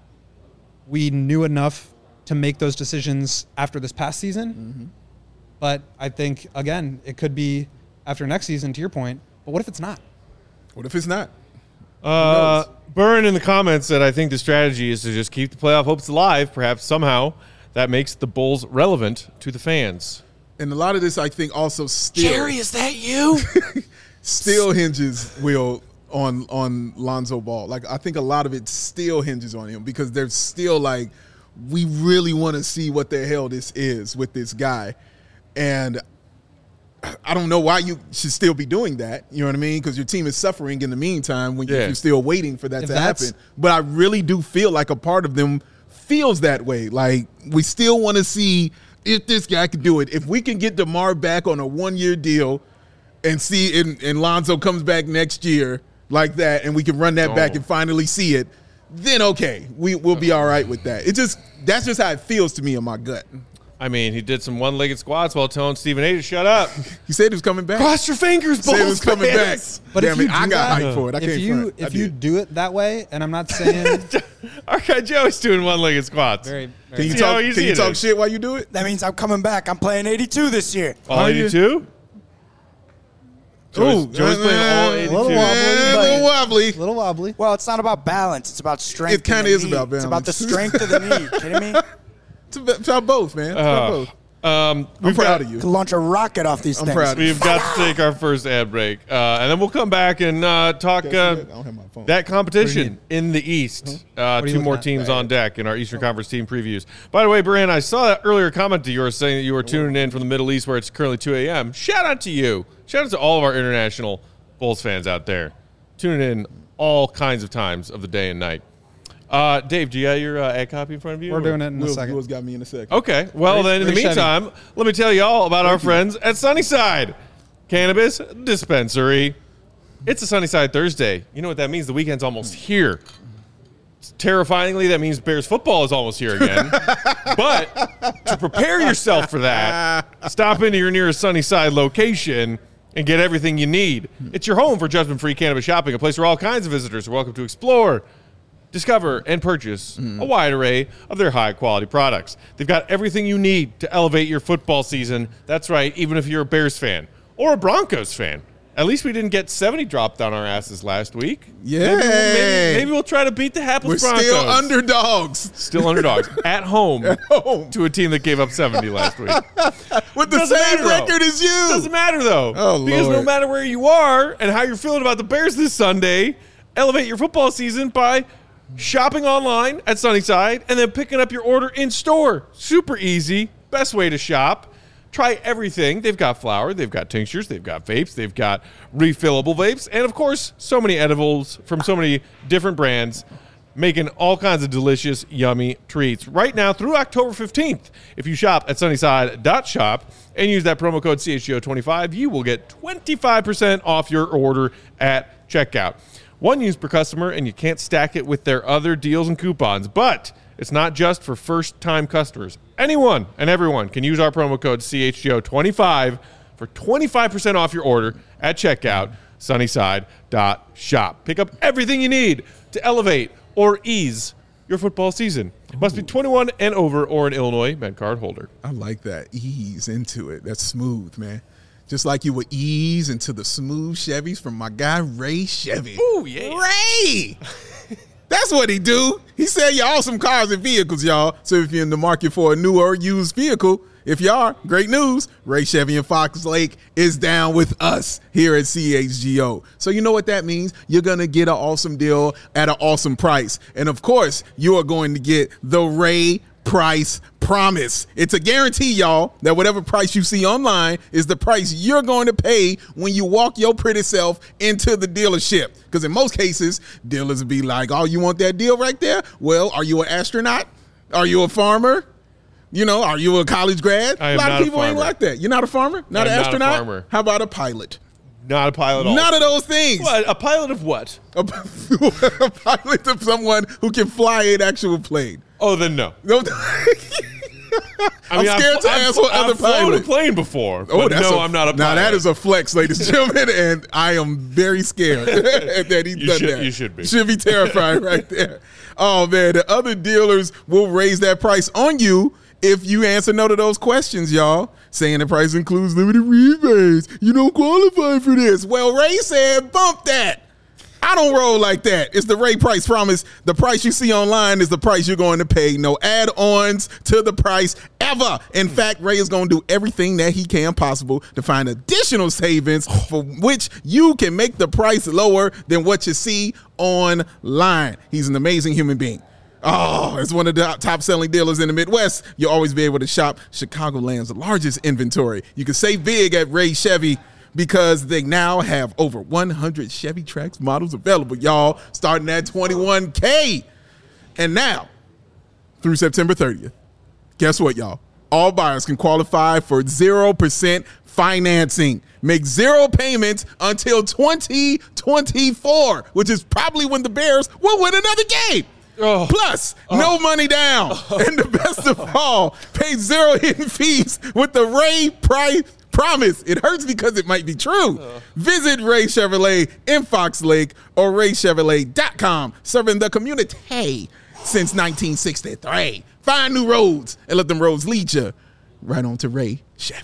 B: we knew enough to make those decisions after this past season.
C: Mm-hmm.
B: But I think, again, it could be after next season, to your point. But what if it's not?
C: What if it's not?
A: Uh, Burn in the comments said, I think the strategy is to just keep the playoff hopes alive. Perhaps somehow that makes the Bulls relevant to the fans.
C: And a lot of this, I think, also still
A: is that you?
C: still hinges will on on Lonzo Ball. Like I think a lot of it still hinges on him because they're still like, we really want to see what the hell this is with this guy. And I don't know why you should still be doing that. You know what I mean? Because your team is suffering in the meantime when
A: Yeah.
C: you're still waiting for that
B: If
C: to
B: that's-
C: happen. But I really do feel like a part of them feels that way. Like we still want to see if this guy can do it. If we can get DeMar back on a one-year deal and see and, and Lonzo comes back next year like that, and we can run that
A: Oh.
C: back and finally see it, then okay, we, we'll be all right with that. It just that's just how it feels to me in my gut.
A: I mean, he did some one-legged squats while telling Stephen A to shut up.
C: He said he was coming back.
A: Cross your fingers,
C: Said he was
A: Bulls
C: coming back.
A: fans.
B: But
C: Damn
B: if
C: it,
B: you do
C: I got
B: that-
C: hyped for it. I
B: if
C: can't
B: you
C: front. I
B: if you
C: did.
B: do it that way, and I'm not saying
A: Our guy Joey's doing one-legged squats.
B: very,
C: Can
B: very
C: you
A: See how
C: talk?
A: easy
C: Can you
A: it
C: talk
A: is.
C: shit while you do it?
D: That means I'm coming back. I'm playing eighty-two this year.
A: All
C: Are you?
A: eighty-two? Joey's,
C: Ooh,
A: Joey's playing all
C: uh,
A: eighty-two.
B: little wobbly,
C: Yeah, a little wobbly.
B: a little wobbly.
D: Well, it's not about balance. It's about strength.
C: It kinda
D: in the
C: is
D: knee.
C: about
D: It's about the
C: balance.
D: strength of the knee. Kidding me?
C: It's about, it's about both, man. It's about
A: Uh,
C: both.
A: Um,
C: I'm
A: we've
C: proud
A: got,
C: of you.
D: Could launch a rocket off these
C: I'm
D: things.
C: proud of you.
A: We've got to take our first ad break, uh, and then we'll come back and uh, talk
C: Okay,
A: uh,
C: I don't have my phone.
A: that competition in the East. Uh,
B: are you
A: two more
B: looking at?
A: teams on deck in our Eastern Conference team previews. By the way, Brian, I saw that earlier comment of yours saying that you were tuning in from the Middle East where it's currently two a.m. Shout out to you. Shout out to all of our international Bulls fans out there tuning in all kinds of times of the day and night. Uh, Dave, do you have your uh, ad copy in front of you?
B: We're doing it in a
C: Will,
B: second.
C: Will's got me in a second.
A: Okay. Well,
B: Ray-
A: then, in the
B: Ray Chevy.
A: meantime, let me tell you all about our friends at Sunnyside Cannabis Dispensary. It's a Sunnyside Thursday. You know what that means? The weekend's almost here. Terrifyingly, that means Bears football is almost here again. But to prepare yourself for that, stop into your nearest Sunnyside location and get everything you need. It's your home for judgment-free cannabis shopping, a place where all kinds of visitors are welcome to explore, discover, and purchase a wide array of their high-quality products. They've got everything you need to elevate your football season. That's right, even if you're a Bears fan or a Broncos fan. At least we didn't get seventy dropped on our asses last week.
C: Yay.
A: Maybe we'll, maybe, maybe we'll try to beat the hapless
C: We're
A: Broncos.
C: still underdogs.
A: Still underdogs. At home
C: home.
A: to a team that gave up seventy last week.
C: With the
A: Doesn't
C: same
A: matter, though.
C: record as you.
A: Doesn't matter, though.
C: Oh,
A: because no
C: Lord.
A: matter where you are and how you're feeling about the Bears this Sunday, elevate your football season by shopping online at Sunnyside and then picking up your order in store. Super easy. Best way to shop. Try everything. They've got flour, they've got tinctures, they've got vapes, they've got refillable vapes, and of course, so many edibles from so many different brands, making all kinds of delicious, yummy treats. Right now through October fifteenth, if you shop at sunnyside dot shop and use that promo code C H G O twenty-five, you will get twenty-five percent off your order at checkout. One use per customer, and you can't stack it with their other deals and coupons, but it's not just for first-time customers. Anyone and everyone can use our promo code C H G O twenty-five for twenty-five percent off your order at checkout, sunnyside dot shop. Pick up everything you need to elevate or ease your football season. Must be twenty-one and over or an Illinois Med Card holder.
C: I like that. Ease into it. That's smooth, man. Just like you would ease into the smooth Chevys from my guy, Ray Chevy.
A: Ooh, yeah.
C: Ray! That's what he do. He sell you awesome cars and vehicles, y'all. So if you're in the market for a new or used vehicle, if you are, great news. Ray Chevy in Fox Lake is down with us here at C H G O. So you know what that means? You're going to get an awesome deal at an awesome price. And of course, you are going to get the Ray Price Promise. It's a guarantee, y'all, that whatever price you see online is the price you're going to pay when you walk your pretty self into the dealership. Because in most cases, dealers will be like, oh, you want that deal right there? Well, are you an astronaut? Are you a farmer? You know, are you a college grad?
A: I am
C: a lot
A: not
C: of
A: a
C: people ain't
A: farmer.
C: like that. You're not a farmer? Not
A: I'm
C: an
A: not a
C: astronaut?
A: farmer.
C: How about a pilot?
A: Not a pilot at all.
C: None of those things.
A: What? A pilot of what?
C: A, a pilot of someone who can fly an actual plane.
A: Oh, then no.
C: No.
A: I
C: I'm
A: mean,
C: scared
A: I've,
C: to
A: I've,
C: ask what
A: I've
C: other
A: flown a
C: pilot.
A: plane before.
C: Oh,
A: but
C: that's
A: no,
C: a,
A: I'm not a pilot.
C: Now that is a flex, ladies and gentlemen, and I am very scared that he's
A: You
C: done
A: should-
C: that.
A: you should be.
C: Should be terrified right there. Oh man, the other dealers will raise that price on you if you answer no to those questions, y'all. Saying the price includes limited rebates. You don't qualify for this. Well, Ray said, bump that. I don't roll like that. It's the Ray Price Promise. The price you see online is the price you're going to pay. No add-ons to the price ever. In fact, Ray is going to do everything that he can possible to find additional savings for which you can make the price lower than what you see online. He's an amazing human being. Oh, it's one of the top-selling dealers in the Midwest. You'll always be able to shop Chicagoland's largest inventory. You can save big at Ray Chevy because they now have over one hundred Chevy Trax models available, y'all, starting at twenty-one K. And now, through September thirtieth, guess what, y'all? All buyers can qualify for zero percent financing. Make zero payments until twenty twenty-four, which is probably when the Bears will win another game. Oh. Plus, oh. no money down. Oh. And the best of all, pay zero hidden fees with the Ray Price Promise. It hurts because it might be true. Oh. Visit Ray Chevrolet in Fox Lake or ray chevrolet dot com, serving the community since nineteen sixty-three. Find new roads and let them roads lead you right on to Ray Chevy.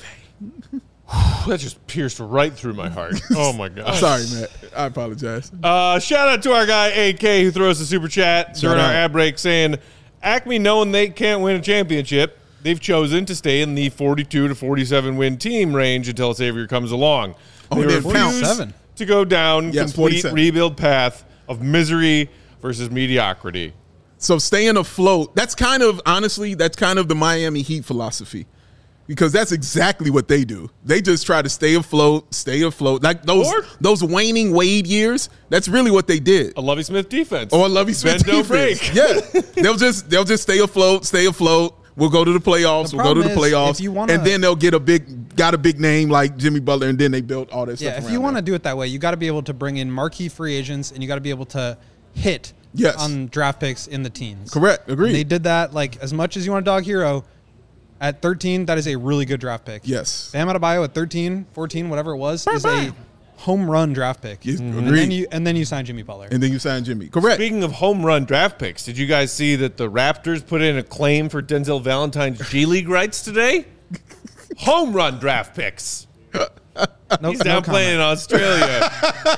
A: That just pierced right through my heart. Oh, my God.
C: Sorry, Matt. I apologize.
A: Uh, shout out to our guy, A K, who throws the super chat shout during out. our ad break saying, Acme, knowing they can't win a championship, they've chosen to stay in the forty-two to forty-seven win team range until Xavier comes along.
C: Oh,
A: they refuse to go down
C: yes,
A: complete
C: forty-seven
A: rebuild path of misery versus mediocrity.
C: So staying afloat, that's kind of, honestly, that's kind of the Miami Heat philosophy. Because that's exactly what they do. They just try to stay afloat, stay afloat. Like those
A: or,
C: those waning Wade years, that's really what they did.
A: A Lovie Smith defense.
C: Or a Lovie Smith
A: Bend,
C: defense.
A: Break.
C: Yeah. they'll just they'll just stay afloat, stay afloat. We'll go to the playoffs.
B: The
C: we'll go to the
B: is,
C: playoffs.
B: if you wanna,
C: and then they'll get a big got a big name like Jimmy Butler, and then they built all that
B: yeah,
C: stuff.
B: Yeah, if you want to do it that way, you got to be able to bring in marquee free agents, and you got to be able to hit
C: yes.
B: on draft picks in the teens.
C: Correct. Agreed.
B: And they did that. Like, as much as you want a dog hero, at thirteen, that is a really good draft pick.
C: Yes.
B: Bam Adebayo at thirteen, fourteen, whatever it was, is a home run draft pick.
C: Yes,
B: mm-hmm.
C: agreed.
B: And then you and then you sign Jimmy Butler.
C: And then you sign Jimmy. Correct.
A: Speaking of home run draft picks, did you guys see that the Raptors put in a claim for Denzel Valentine's G League rights today? Home run draft picks.
B: No,
A: He's down
B: no
A: playing in Australia.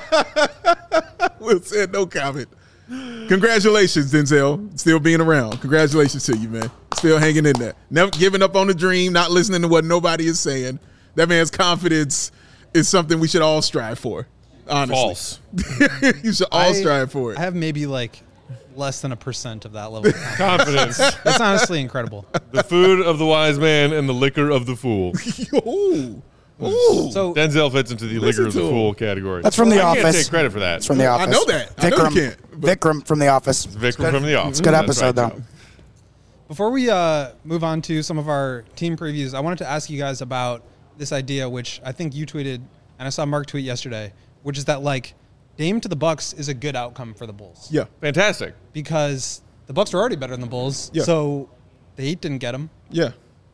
C: Will said no comment. Congratulations, Denzel. Still being around. Congratulations to you, man. Still hanging in there. Never giving up on the dream, not listening to what nobody is saying. That man's confidence is something we should all strive for. Honestly.
A: False.
C: You should all
B: I,
C: strive for it.
B: I have maybe like less than a percent of that level of
A: confidence.
B: It's honestly incredible.
A: The food of the wise man and the liquor of the fool.
C: Ooh. Ooh.
B: So
A: Denzel fits into the liquor of the fool category.
D: That's from The
A: I
D: Office.
A: can't take credit for that.
D: It's from The Office.
C: I know that. I
D: Vikram,
C: know you can't. But
D: Vikram from The Office.
A: Vikram from The Office.
D: It's a good
A: That's
D: episode,
A: right,
D: though.
B: before we uh, move on to some of our team previews, I wanted to ask you guys about this idea, which I think you tweeted, and I saw Mark tweet yesterday, which is that like Dame to the Bucks is a good outcome for the Bulls.
C: Yeah.
A: Fantastic.
B: Because the Bucks are already better than the Bulls,
C: Yeah.
B: so the Heat didn't get him.
C: Yeah.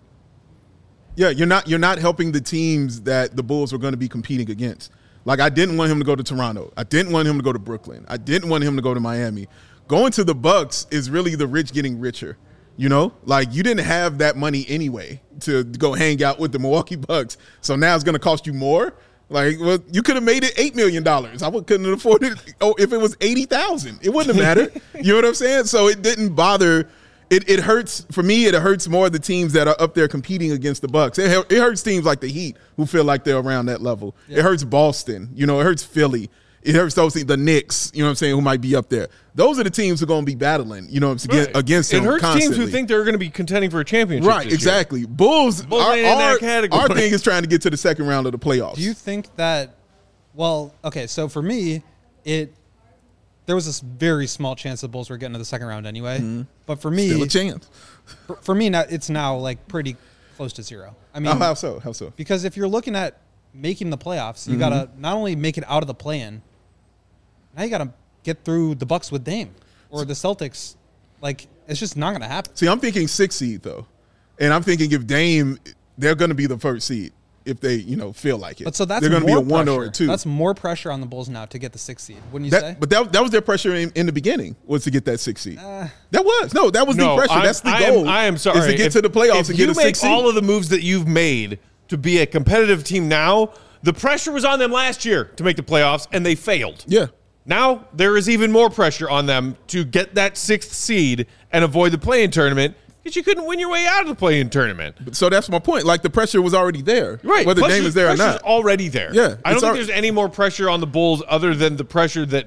C: Yeah, you're not you're not helping the teams that the Bulls were going to be competing against. Like, I didn't want him to go to Toronto. I didn't want him to go to Brooklyn. I didn't want him to go to Miami. Going to the Bucks is really the rich getting richer. You know, like you didn't have that money anyway to go hang out with the Milwaukee Bucks. So now it's going to cost you more. Like, well, you could have made it eight million dollars. I couldn't have afforded it. Oh, if it was eighty thousand, it wouldn't have mattered. You know what I'm saying? So it didn't bother. It it hurts for me. It hurts more the teams that are up there competing against the Bucks. It, it hurts teams like the Heat who feel like they're around that level. Yeah. It hurts Boston. You know, it hurts Philly. It hurts those the Knicks. You know what I'm saying? Who might be up there. Those are the teams who are going to be battling. You know, what I'm saying,
A: right.
C: against them.
A: It hurts
C: constantly.
A: teams who think they're going to be contending for a championship.
C: Right,
A: this
C: exactly.
A: Year.
C: Bulls,
A: Bulls
C: our,
A: ain't in that
C: our,
A: category.
C: our thing is trying to get to the second round of the playoffs.
B: Do you think that, well, okay, so for me, it there was this very small chance the Bulls were getting to the second round anyway. Mm-hmm. But for me,
C: still a chance.
B: For, for me, now it's now like pretty close to zero. I mean,
C: oh, how so? How so?
B: Because if you're looking at making the playoffs, you
C: Mm-hmm.
B: got to not only make it out of the play-in, now you got to get through the Bucks with Dame or the Celtics. Like, it's just not going to happen.
C: See, I'm thinking six seed though, and I'm thinking if Dame, they're going to be the first seed if they, you know, feel like it.
B: But so that's
C: they're going to be
B: more
C: a one
B: pressure.
C: or a two.
B: That's more pressure on the Bulls now to get the sixth seed, wouldn't you
C: that,
B: say?
C: But that, that was their pressure in, in the beginning, was to get that six seed. Uh, that was no, that was
A: no,
C: the pressure.
A: I'm,
C: That's the
A: I
C: goal.
A: Am, I am sorry.
C: Is to get
A: if,
C: to the playoffs
A: if
C: and get
A: you
C: a
A: make
C: six seed.
A: all of the moves that you've made to be a competitive team now, the pressure was on them last year to make the playoffs, and they failed.
C: Yeah.
A: Now there is even more pressure on them to get that sixth seed and avoid the play-in tournament because you couldn't win your way out of the play-in tournament.
C: So that's my point. Like, the pressure was already there,
A: right?
C: Whether
A: Plus,
C: Dame is there or not,
A: already there.
C: Yeah,
A: I don't think
C: al-
A: there's any more pressure on the Bulls other than the pressure that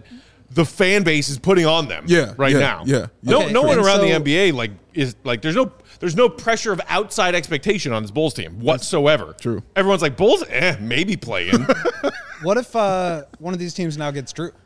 A: the fan base is putting on them.
C: Yeah,
A: right
C: yeah,
A: now.
C: yeah, yeah.
A: No,
B: Okay,
A: no one
B: and
A: around the
B: so-
A: N B A like is like there's no there's no pressure of outside expectation on this Bulls team whatsoever.
C: True.
A: Everyone's like Bulls, eh, maybe play in.
B: What if uh, one of these teams now gets Drew?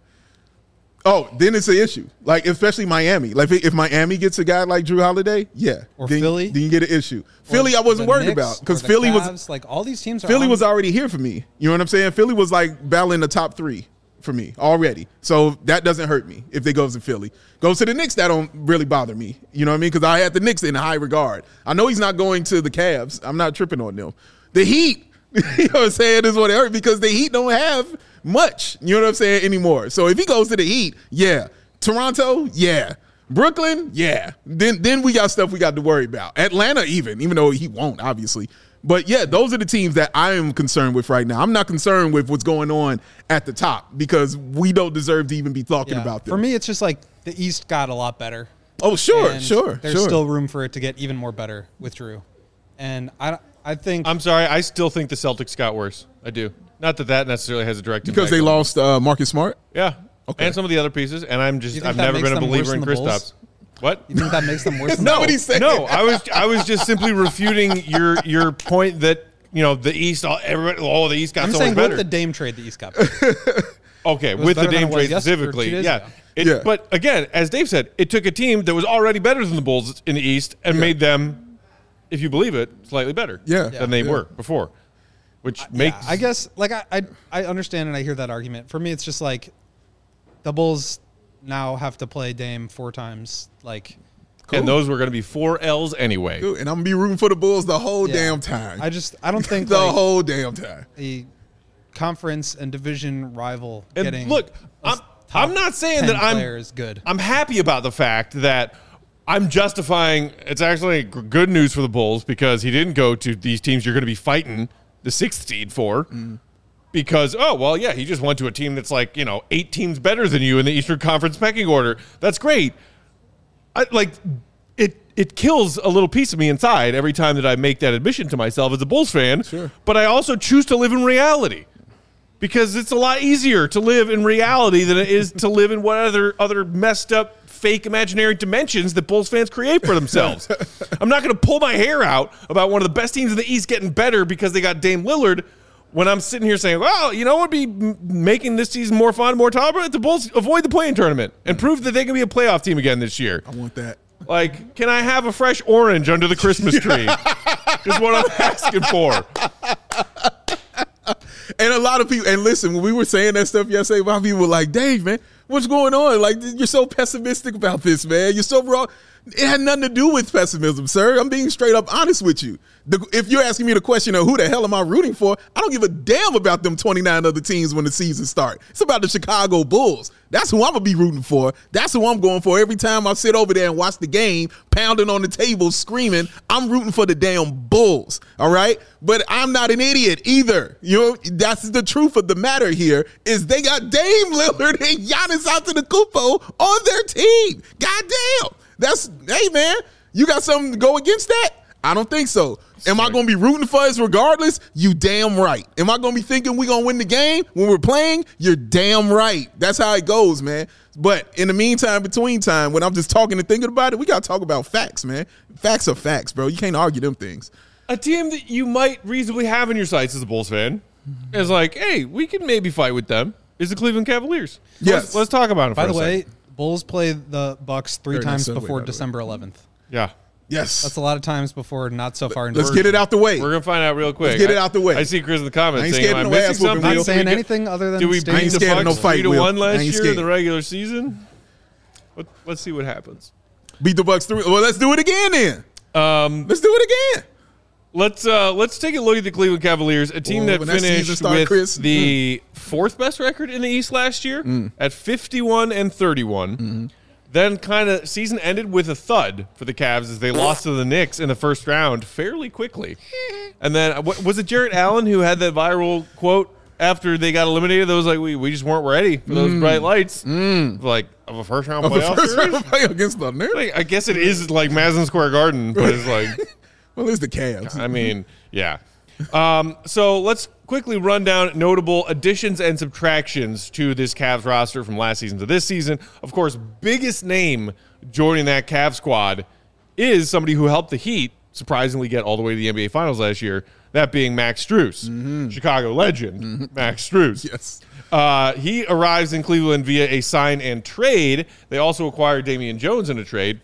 C: Oh, then it's an issue. Like, especially Miami. Like, if, if Miami gets a guy like Drew Holiday, yeah.
B: Or
C: then,
B: Philly?
C: Then you get an issue. Philly,
B: Or
C: I wasn't
B: the
C: worried
B: Knicks,
C: about because
B: or the
C: Philly was
B: Cavs, like all these teams. Are
C: Philly
B: on-
C: was already here for me. You know what I'm saying? Philly was like battling the top three for me already. So that doesn't hurt me if they goes to Philly. Goes to the Knicks, that don't really bother me. You know what I mean? Because I had the Knicks in high regard. I know he's not going to the Cavs. I'm not tripping on them. The Heat, you know what I'm saying, is what it hurt because the Heat don't have much, you know what I'm saying, anymore. So if he goes to the Heat, yeah. Toronto, yeah. Brooklyn, yeah. Then then we got stuff we got to worry about. Atlanta even, even though he won't, obviously. But, yeah, those are the teams that I am concerned with right now. I'm not concerned with what's going on at the top because we don't deserve to even be talking
B: Yeah.
C: about them.
B: For me, it's just like the East got a lot better.
C: oh, sure,
B: and
C: sure,
B: There's
C: sure.
B: still room for it to get even more better with Drew, and I I think
A: I'm sorry, I still think the Celtics got worse. I do. Not that that necessarily has a direct
C: because
A: impact
C: they
A: on-
C: lost uh, Marcus Smart.
A: Yeah.
C: Okay.
A: And some of the other pieces, and I'm just
B: You think
A: I've
B: that
A: never
B: makes
A: been a
B: them worse
A: believer in
B: than the
A: Kristaps.
B: Bulls?
A: What?
B: you think that makes them worse. than
C: No,
B: the
C: what he
B: Bulls?
C: said.
A: No, I was I was just simply refuting your your point that you know the East, all, everybody, oh the East got
B: I'm
A: so
B: saying
A: much better.
B: with the Dame trade, the East got better.
A: okay,
B: was
A: with the
B: better than
A: Dame
B: it was
A: trade
B: yesterday or
A: specifically,
B: two days
A: yeah.
B: ago.
A: It,
C: Yeah.
A: But again, as Dave said, it took a team that was already better than the Bulls in the East and
C: Yeah.
A: made them, if you believe it, slightly better
C: Yeah.
A: than they
C: Yeah.
A: were before, which
B: Yeah,
A: makes
B: I guess like I, I I understand and I hear that argument. For me, it's just like the Bulls now have to play Dame four times. Like
A: and those were going to be four L's anyway.
C: Dude, and I'm going to be rooting for the Bulls the whole
B: yeah.
C: damn time.
B: I just I don't think
C: the
B: like,
C: whole damn time.
B: a conference and division rival
A: And
B: getting
A: look,
B: a
A: I'm,
B: top
A: I'm not saying
B: ten
A: that I'm
B: player is good.
A: I'm happy about the fact that I'm justifying. It's actually g- good news for the Bulls because he didn't go to these teams you're going to be fighting the sixth seed for.
C: Mm.
A: Because oh well, yeah, he just went to a team that's like you know eight teams better than you in the Eastern Conference pecking order. That's great. I like it. It kills a little piece of me inside every time that I make that admission to myself as a Bulls fan.
C: Sure.
A: But I also choose to live in reality. Because it's a lot easier to live in reality than it is to live in what other other messed up, fake, imaginary dimensions that Bulls fans create for themselves. I'm not going to pull my hair out about one of the best teams in the East getting better because they got Dame Lillard when I'm sitting here saying, well, you know what would be m- making this season more fun, more tolerable? The Bulls avoid the play-in tournament and prove that they can be a playoff team again this year.
C: I want that.
A: Like, can I have a fresh orange under the Christmas tree? Is what I'm asking for.
C: And a lot of people, and listen, when we were saying that stuff yesterday, a lot of people were like, Dave, man, what's going on? Like, you're so pessimistic about this, man. You're so wrong. It had nothing to do with pessimism, sir. I'm being straight up honest with you. The, if you're asking me the question of who the hell am I rooting for, I don't give a damn about them twenty-nine other teams when the season starts. It's about the Chicago Bulls. That's who I'm going to be rooting for. That's who I'm going for. Every time I sit over there and watch the game, pounding on the table, screaming, I'm rooting for the damn Bulls, all right? But I'm not an idiot either. You know, that's the truth of the matter here is they got Dame Lillard and Giannis Antetokounmpo on their team. Goddamn. That's, hey, man, you got something to go against that? I don't think so. Am I going to be rooting for us regardless? You damn right. Am I going to be thinking we're going to win the game when we're playing? You're damn right. That's how it goes, man. But in the meantime, between time, when I'm just talking and thinking about it, we got to talk about facts, man. Facts are facts, bro. You can't argue them things.
A: A team that you might reasonably have in your sights as a Bulls fan is like, hey, we can maybe fight with them, is the Cleveland Cavaliers.
C: Yes.
A: Let's, let's talk about it for
B: By the
A: a
B: way,
A: second.
B: Bulls play the Bucks three
C: Very
B: times
C: nice segue,
B: before
C: by the way.
B: December eleventh.
A: Yeah.
C: Yes.
B: That's a lot of times before not so far. into
C: Let's
B: the
C: get it
B: season.
C: out the way.
A: We're going to find out real quick.
C: get it
A: I-
C: out the way.
A: I see Chris in the comments
C: I ain't
A: saying,
C: scared
A: am I
C: of no
A: missing
C: ass whooping,
A: something?
C: Will.
B: Not
C: Did
B: saying
A: we get-
B: anything other than
A: Did we
B: staying
A: beat the
C: scared of no
A: Bucks
C: fight,
A: three to
C: Will.
A: one
C: I
A: last
C: ain't
A: year in
C: scared.
A: the regular season? Let, let's see what happens.
C: Beat the Bucks three. Well, let's do it again then.
A: Um,
C: Let's do it again.
A: let's uh, let's take a look at the Cleveland Cavaliers, a team
C: Oh,
A: that
C: when that season
A: finished
C: start,
A: with
C: Chris.
A: the fourth best record in the East last year at fifty-one and thirty-one. Then kind of season ended with a thud for the Cavs as they lost to the Knicks in the first round fairly quickly. And then what, was it Jarrett Allen who had that viral quote after they got eliminated? That was like, we, we just weren't ready for those bright lights. Like of a first round
C: Of the
A: playoff
C: first
A: series?
C: round play against the Knicks.
A: Like, I guess it is like Madison Square Garden, but it's like,
C: Well, it's the Cavs.
A: I mean, yeah. Um, so let's quickly run down notable additions and subtractions to this Cavs roster from last season to this season. Of course, biggest name joining that Cavs squad is somebody who helped the Heat surprisingly get all the way to the N B A Finals last year, that being Max Strus, mm-hmm. Chicago legend, mm-hmm. Max Strus.
C: Yes.
A: Uh, he arrives in Cleveland via a sign and trade. They also acquired Damian Jones in a trade.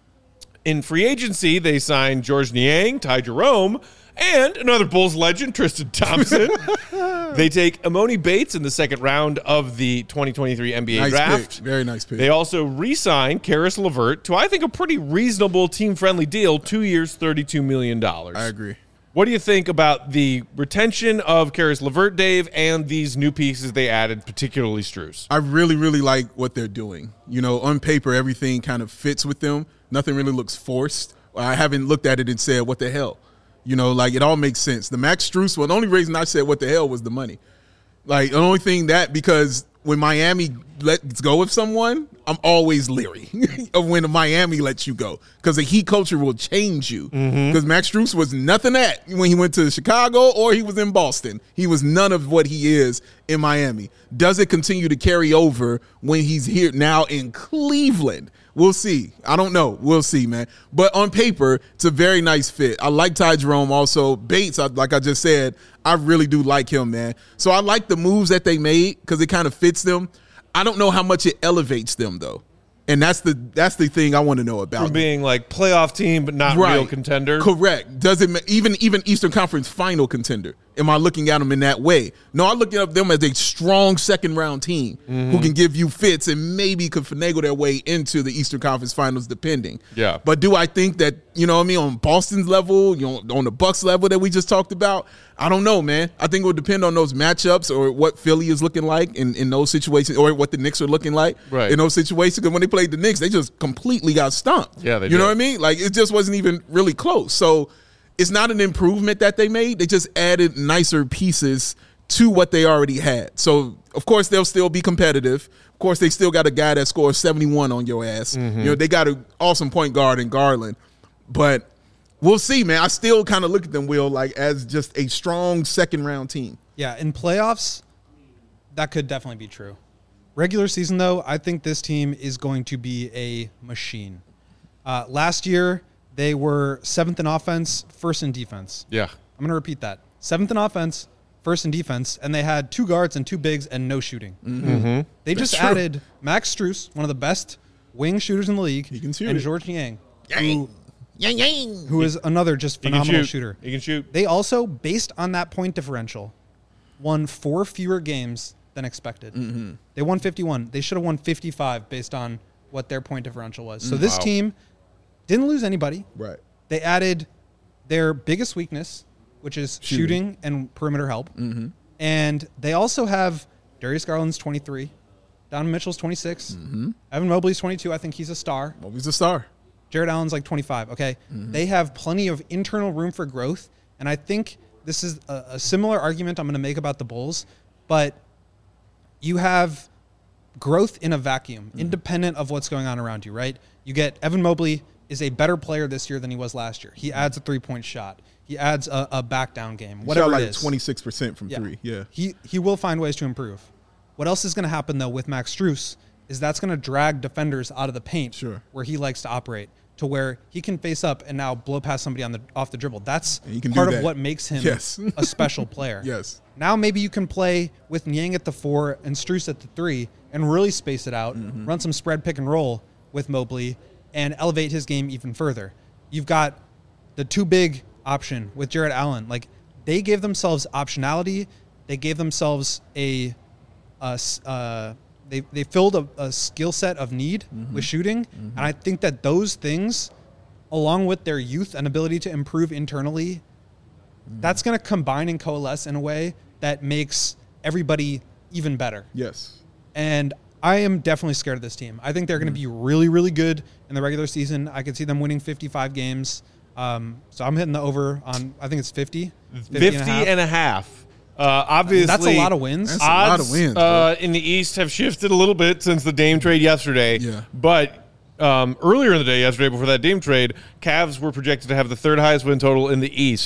A: In free agency, they signed George Niang, Ty Jerome, and another Bulls legend, Tristan Thompson. They take Emoni Bates in the second round of the twenty twenty-three N B A
C: nice
A: draft.
C: Pick. Very nice pick.
A: They also re-signed Karis LeVert to, I think, a pretty reasonable team-friendly deal, two years, thirty-two million dollars.
C: I agree.
A: What do you think about the retention of Karis LeVert, Dave, and these new pieces they added, particularly Strus?
C: I really, really like what they're doing. You know, on paper, everything kind of fits with them. Nothing really looks forced. I haven't looked at it and said, what the hell? You know, like, it all makes sense. The Max Strus one, the only reason I said what the hell was the money. Like, the only thing that, because when Miami lets go of someone, I'm always leery of when Miami lets you go, because the Heat culture will change you. Because mm-hmm. Max Strus was nothing that when he went to Chicago or he was in Boston. He was none of what he is in Miami. Does it continue to carry over when he's here now in Cleveland? We'll see. I don't know. We'll see, man. But on paper, it's a very nice fit. I like Ty Jerome also. Bates, like I just said, I really do like him, man. So I like the moves that they made because it kind of fits them. I don't know how much it elevates them, though. And that's the that's the thing I want to know about.
A: From being like playoff team, but not
C: right.
A: real contender.
C: Correct. Does it even even Eastern Conference final contender? Am I looking at them in that way? No, I look at them as a strong second round team mm-hmm. who can give you fits and maybe could finagle their way into the Eastern Conference Finals, depending.
A: Yeah.
C: But do I think that, you know what I mean, on Boston's level, you know, on the Bucks level that we just talked about? I don't know, man. I think it would depend on those matchups or what Philly is looking like in, in those situations, or what the Knicks are looking like
A: right.
C: in those situations. Because when they played the Knicks, they just completely got stomped.
A: Yeah, they
C: You
A: did.
C: know what I mean? Like, it just wasn't even really close. So it's not an improvement that they made. They just added nicer pieces to what they already had. So, of course, they'll still be competitive. Of course, they still got a guy that scores seventy-one on your ass. Mm-hmm. You know, they got an awesome point guard in Garland. But we'll see, man. I still kind of look at them, Will, like as just a strong second-round team.
B: Yeah, in playoffs, that could definitely be true. Regular season, though, I think this team is going to be a machine. Uh, last year, they were seventh in offense, first in defense.
A: Yeah.
B: I'm going to repeat that. Seventh in offense, first in defense, and they had two guards and two bigs and no shooting.
A: Mm-hmm.
B: They
C: That's
B: just
C: true.
B: added Max Strus, one of the best wing shooters in the league,
C: He can shoot
B: and
C: it.
B: George Niang,
C: Yang.
B: who,
C: Yang, yang.
B: who is another just
A: He can
B: phenomenal
A: shoot.
B: shooter.
A: He can shoot.
B: They also, based on that point differential, won four fewer games than expected.
C: Mm-hmm.
B: They won fifty-one. They should have won fifty-five based on what their point differential was. So this
A: Wow.
B: team didn't lose anybody.
C: Right.
B: They added their biggest weakness, which is
C: Shooting.
B: shooting, and perimeter help.
C: Mm-hmm.
B: And they also have Darius Garland's twenty-three, Donovan Mitchell's twenty-six,
C: Mm-hmm.
B: Evan Mobley's twenty-two. I think he's a star.
C: Well, he's a star.
B: Jared Allen's like twenty-five. Okay.
C: Mm-hmm.
B: They have plenty of internal room for growth. And I think this is a, a similar argument I'm going to make about the Bulls. But you have growth in a vacuum, mm-hmm. independent of what's going on around you, right? You get Evan Mobley is a better player this year than he was last year. He adds a three-point shot. He adds a, a back-down game,
C: He
B: whatever
C: shot like
B: it is.
C: twenty-six percent from
B: Yeah.
C: three. Yeah.
B: He he will find ways to improve. What else is going to happen, though, with Max Strus is that's going to drag defenders out of the paint
C: Sure.
B: where he likes to operate, to where he can face up and now blow past somebody on the off the dribble. That's
C: And he can do
B: part of
C: that.
B: what makes him
C: Yes.
B: a special player.
C: Yes.
B: Now maybe you can play with Niang at the four and Strus at the three and really space it out,
C: Mm-hmm.
B: run some spread pick and roll with Mobley, and elevate his game even further. You've got the too big option with Jared Allen. Like, they gave themselves optionality. They gave themselves a, a s- uh, they they filled a, a skill set of need
C: Mm-hmm.
B: with shooting, and I think that those things, along with their youth and ability to improve internally,
C: Mm-hmm.
B: that's going to combine and coalesce in a way that makes everybody even better.
C: Yes.
B: And I am definitely scared of this team. I think they're going to be really, really good in the regular season. I could see them winning fifty-five games. Um, so I'm hitting the over on, I think it's fifty.
A: fifty and a half. Uh, obviously,
B: That's a lot of wins.
C: That's a lot
A: odds
C: of wins,
A: uh, in the East have shifted a little bit since the Dame trade yesterday.
C: Yeah.
A: But um, earlier in the day, yesterday, before that Dame trade, Cavs were projected to have the third highest win total in the East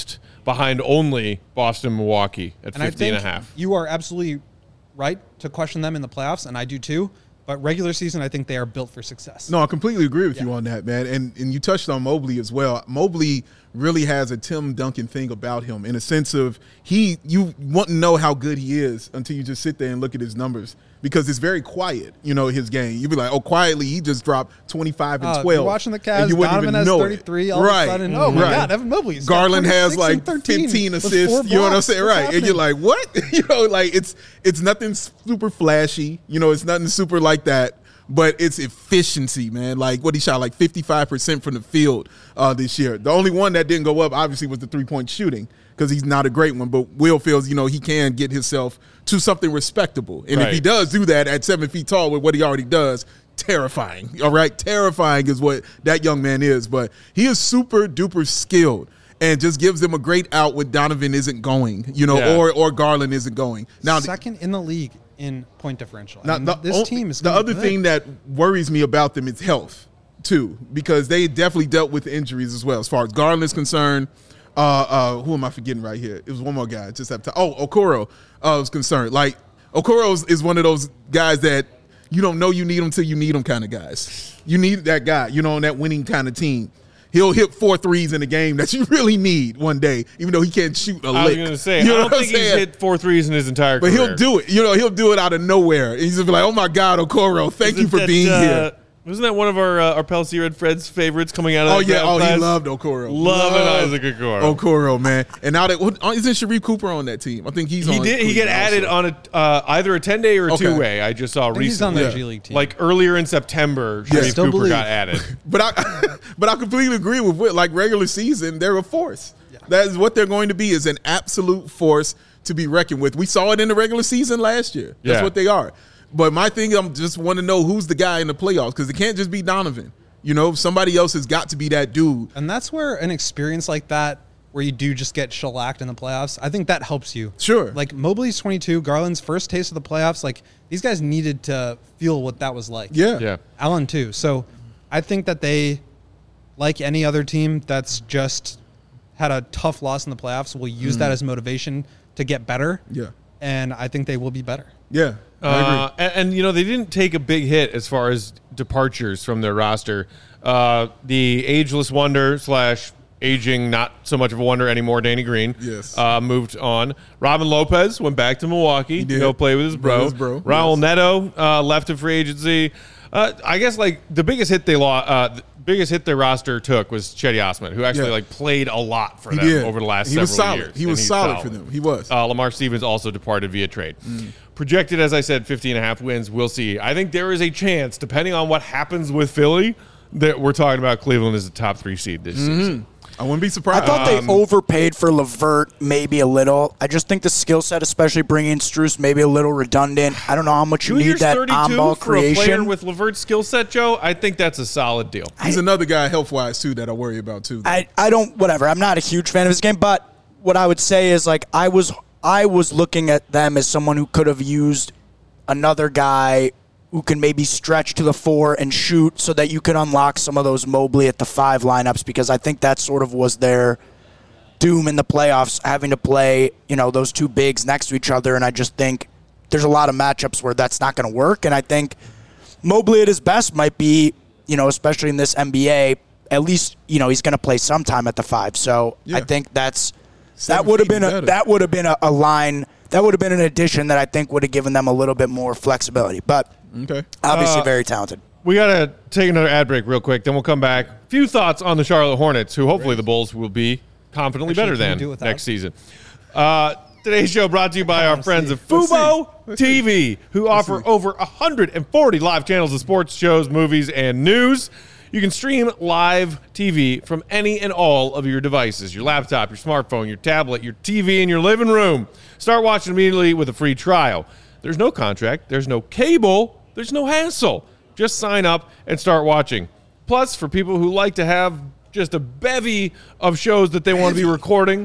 A: behind only Boston, Milwaukee at
B: And I
A: fifty and a
B: think
A: half.
B: you are absolutely right to question them in the playoffs, and I do too. But regular season, I think they are built for success.
C: No, I completely agree with
B: Yeah.
C: you on that, man. And and you touched on Mobley as well. Mobley really has a Tim Duncan thing about him in a sense of he you want to know how good he is until you just sit there and look at his numbers because it's very quiet, you know, his game. You'd be like, oh, quietly he just dropped twenty-five and
B: Uh,
C: twelve.
B: You're watching the
C: and
B: Cavs,
C: you wouldn't
B: Donovan
C: even
B: has
C: know it.
B: thirty-three all
C: right.
B: of a sudden. Oh, my
C: right.
B: God, Evan Mobley's got
C: Garland has
B: twenty-six
C: like
B: and thirteen
C: fifteen
B: with
C: assists.
B: four
C: You know what I'm
B: blocks.
C: saying?
B: What's
C: Right. And you're
B: happening?
C: like, what? you know, like it's it's nothing super flashy. You know, it's nothing super like that. But it's efficiency, man. Like what he shot, like fifty-five percent from the field uh, this year. The only one that didn't go up, obviously, was the three-point shooting because he's not a great one. But Will feels, you know, he can get himself to something respectable. And if he
A: Right.
C: does do that at seven feet tall with what he already does, terrifying. All right? Terrifying is what that young man is. But he is super duper skilled and just gives them a great out when Donovan isn't going, you know,
A: Yeah.
C: or or Garland isn't going. Now,
B: Second in the league in point differential.
C: now,
B: I mean,
C: the,
B: this
C: o-
B: team is
C: the
B: gonna be
C: other
B: good.
C: thing that worries me about them is health too, because they definitely dealt with injuries as well. As far as Garland is concerned, uh, uh, who am I forgetting right here? It was one more guy. I just have to. Oh, Okoro uh, was concerned. Like Okoro is- is one of those guys that you don't know you need him till you need him kind of guys. You need that guy, you know, on that winning kind of team. He'll hit four threes in a game that you really need one day, even though he can't shoot a
A: I was
C: lick.
A: going to say,
C: You know
A: I don't
C: what I'm
A: think he's
C: saying?
A: hit four threes in his entire
C: But
A: career.
C: he'll do it. You know, he'll do it out of nowhere. And he's just be like, oh, my God, Okoro, thank you
A: Isn't
C: for
A: that,
C: being
A: uh,
C: here.
A: Wasn't that one of our uh, our Pelsier and Fred's favorites coming out of
C: Oh,
A: that
C: yeah.
A: draft
C: Oh,
A: class?
C: he loved Okoro.
A: Loving
C: Loved
A: Isaac Okoro.
C: Okoro, man. And now that, what, isn't Sharif Cooper on that team? I think he's
A: He
C: on
A: did. He get
C: Cleveland
A: added
C: also.
A: on a uh, either a ten day or a
C: Okay.
A: two way. I just saw
B: I think he's on
A: recently,
B: the
C: Yeah.
B: G League team.
A: like earlier in September,
C: Yeah.
A: Sharif
B: Still
A: Cooper
B: believe.
A: got added.
C: But I, but I completely agree with Whit. Like regular season, they're a force. That is what they're going to be, is an absolute force to be reckoned with. We saw it in the regular season last year. That's
A: Yeah.
C: what they are. But my thing, I'm just want to know who's the guy in the playoffs because it can't just be Donovan. You know, somebody else has got to be that dude.
B: And that's where an experience like that, where you do just get shellacked in the playoffs, I think that helps you.
C: Sure.
B: Like Mobley's twenty-two, Garland's first taste of the playoffs. Like these guys needed to feel what that was like.
C: Yeah.
A: Yeah.
B: Allen too. So I think that they, like any other team that's just had a tough loss in the playoffs, will use that as motivation to get better.
C: Yeah.
B: And I think they will be better.
C: Yeah. I agree.
A: Uh, and, and you know they didn't take a big hit as far as departures from their roster. Uh, the ageless wonder slash aging not so much of a wonder anymore, Danny Green.
C: Yes.
A: Uh, moved on. Robin Lopez went back to Milwaukee to
C: did.
A: go play with his bro.
C: With his bro,
A: Raul
C: yes.
A: Neto uh, left in free agency. Uh, I guess like the biggest hit they lost, uh, the biggest hit their roster took was Chetty Osman, who actually
C: Yeah.
A: like played a lot for
C: He
A: them
C: did.
A: over the last
C: He
A: several
C: was solid.
A: years.
C: He
A: and
C: was
A: he's
C: solid for them. He was.
A: Uh, Lamar Stevens also departed via trade. Projected, as I said, fifty and a half wins. We'll see. I think there is a chance, depending on what happens with Philly, that we're talking about Cleveland as a top three seed this season.
C: I wouldn't be
D: I
C: surprised.
D: thought they overpaid for Levert maybe a little. I just think the skill set, especially bringing in Strus, maybe a little redundant. I don't know how much you
A: Two
D: need
A: years
D: that
A: thirty-two
D: on-ball
A: for a player
D: creation.
A: with Levert's skill set, Joe. I think that's a solid deal.
C: He's another guy health-wise, too, that I worry about, too.
D: I, I don't whatever. I'm not a huge fan of his game, but what I would say is like I was I was looking at them as someone who could have used another guy who can maybe stretch to the four and shoot so that you could unlock some of those Mobley at the five lineups, because I think that sort of was their doom in the playoffs, having to play, you know, those two bigs next to each other. And I just think there's a lot of matchups where that's not going to work. And I think Mobley at his best might be, you know, especially in this N B A, at least, you know, he's going to play sometime at the five. So
C: Yeah.
D: I think that's
C: Seven
D: that would have
C: feet
D: been a
C: better.
D: that would have been a, a line that would have been an addition that I think would have given them a little bit more flexibility. But
C: Okay.
D: obviously
A: Uh,
D: very talented.
A: We got to take another ad break real quick, then we'll come back. Few thoughts on the Charlotte Hornets, who hopefully the Bulls will be confidently
B: Actually,
A: better
B: can we
A: than
B: do it without?
A: next season. Uh, today's show brought to you by our
B: Let's
A: friends
B: see.
A: of
C: Let's
A: Fubo
C: see. Let's
A: T V, who offer
C: see.
A: over one hundred forty live channels of sports, shows, movies, and news. You can stream live T V from any and all of your devices, your laptop, your smartphone, your tablet, your T V in your living room. Start watching immediately with a free trial. There's no contract, there's no cable, there's no hassle. Just sign up and start watching. Plus, for people who like to have just a bevy of shows that they want to be recording,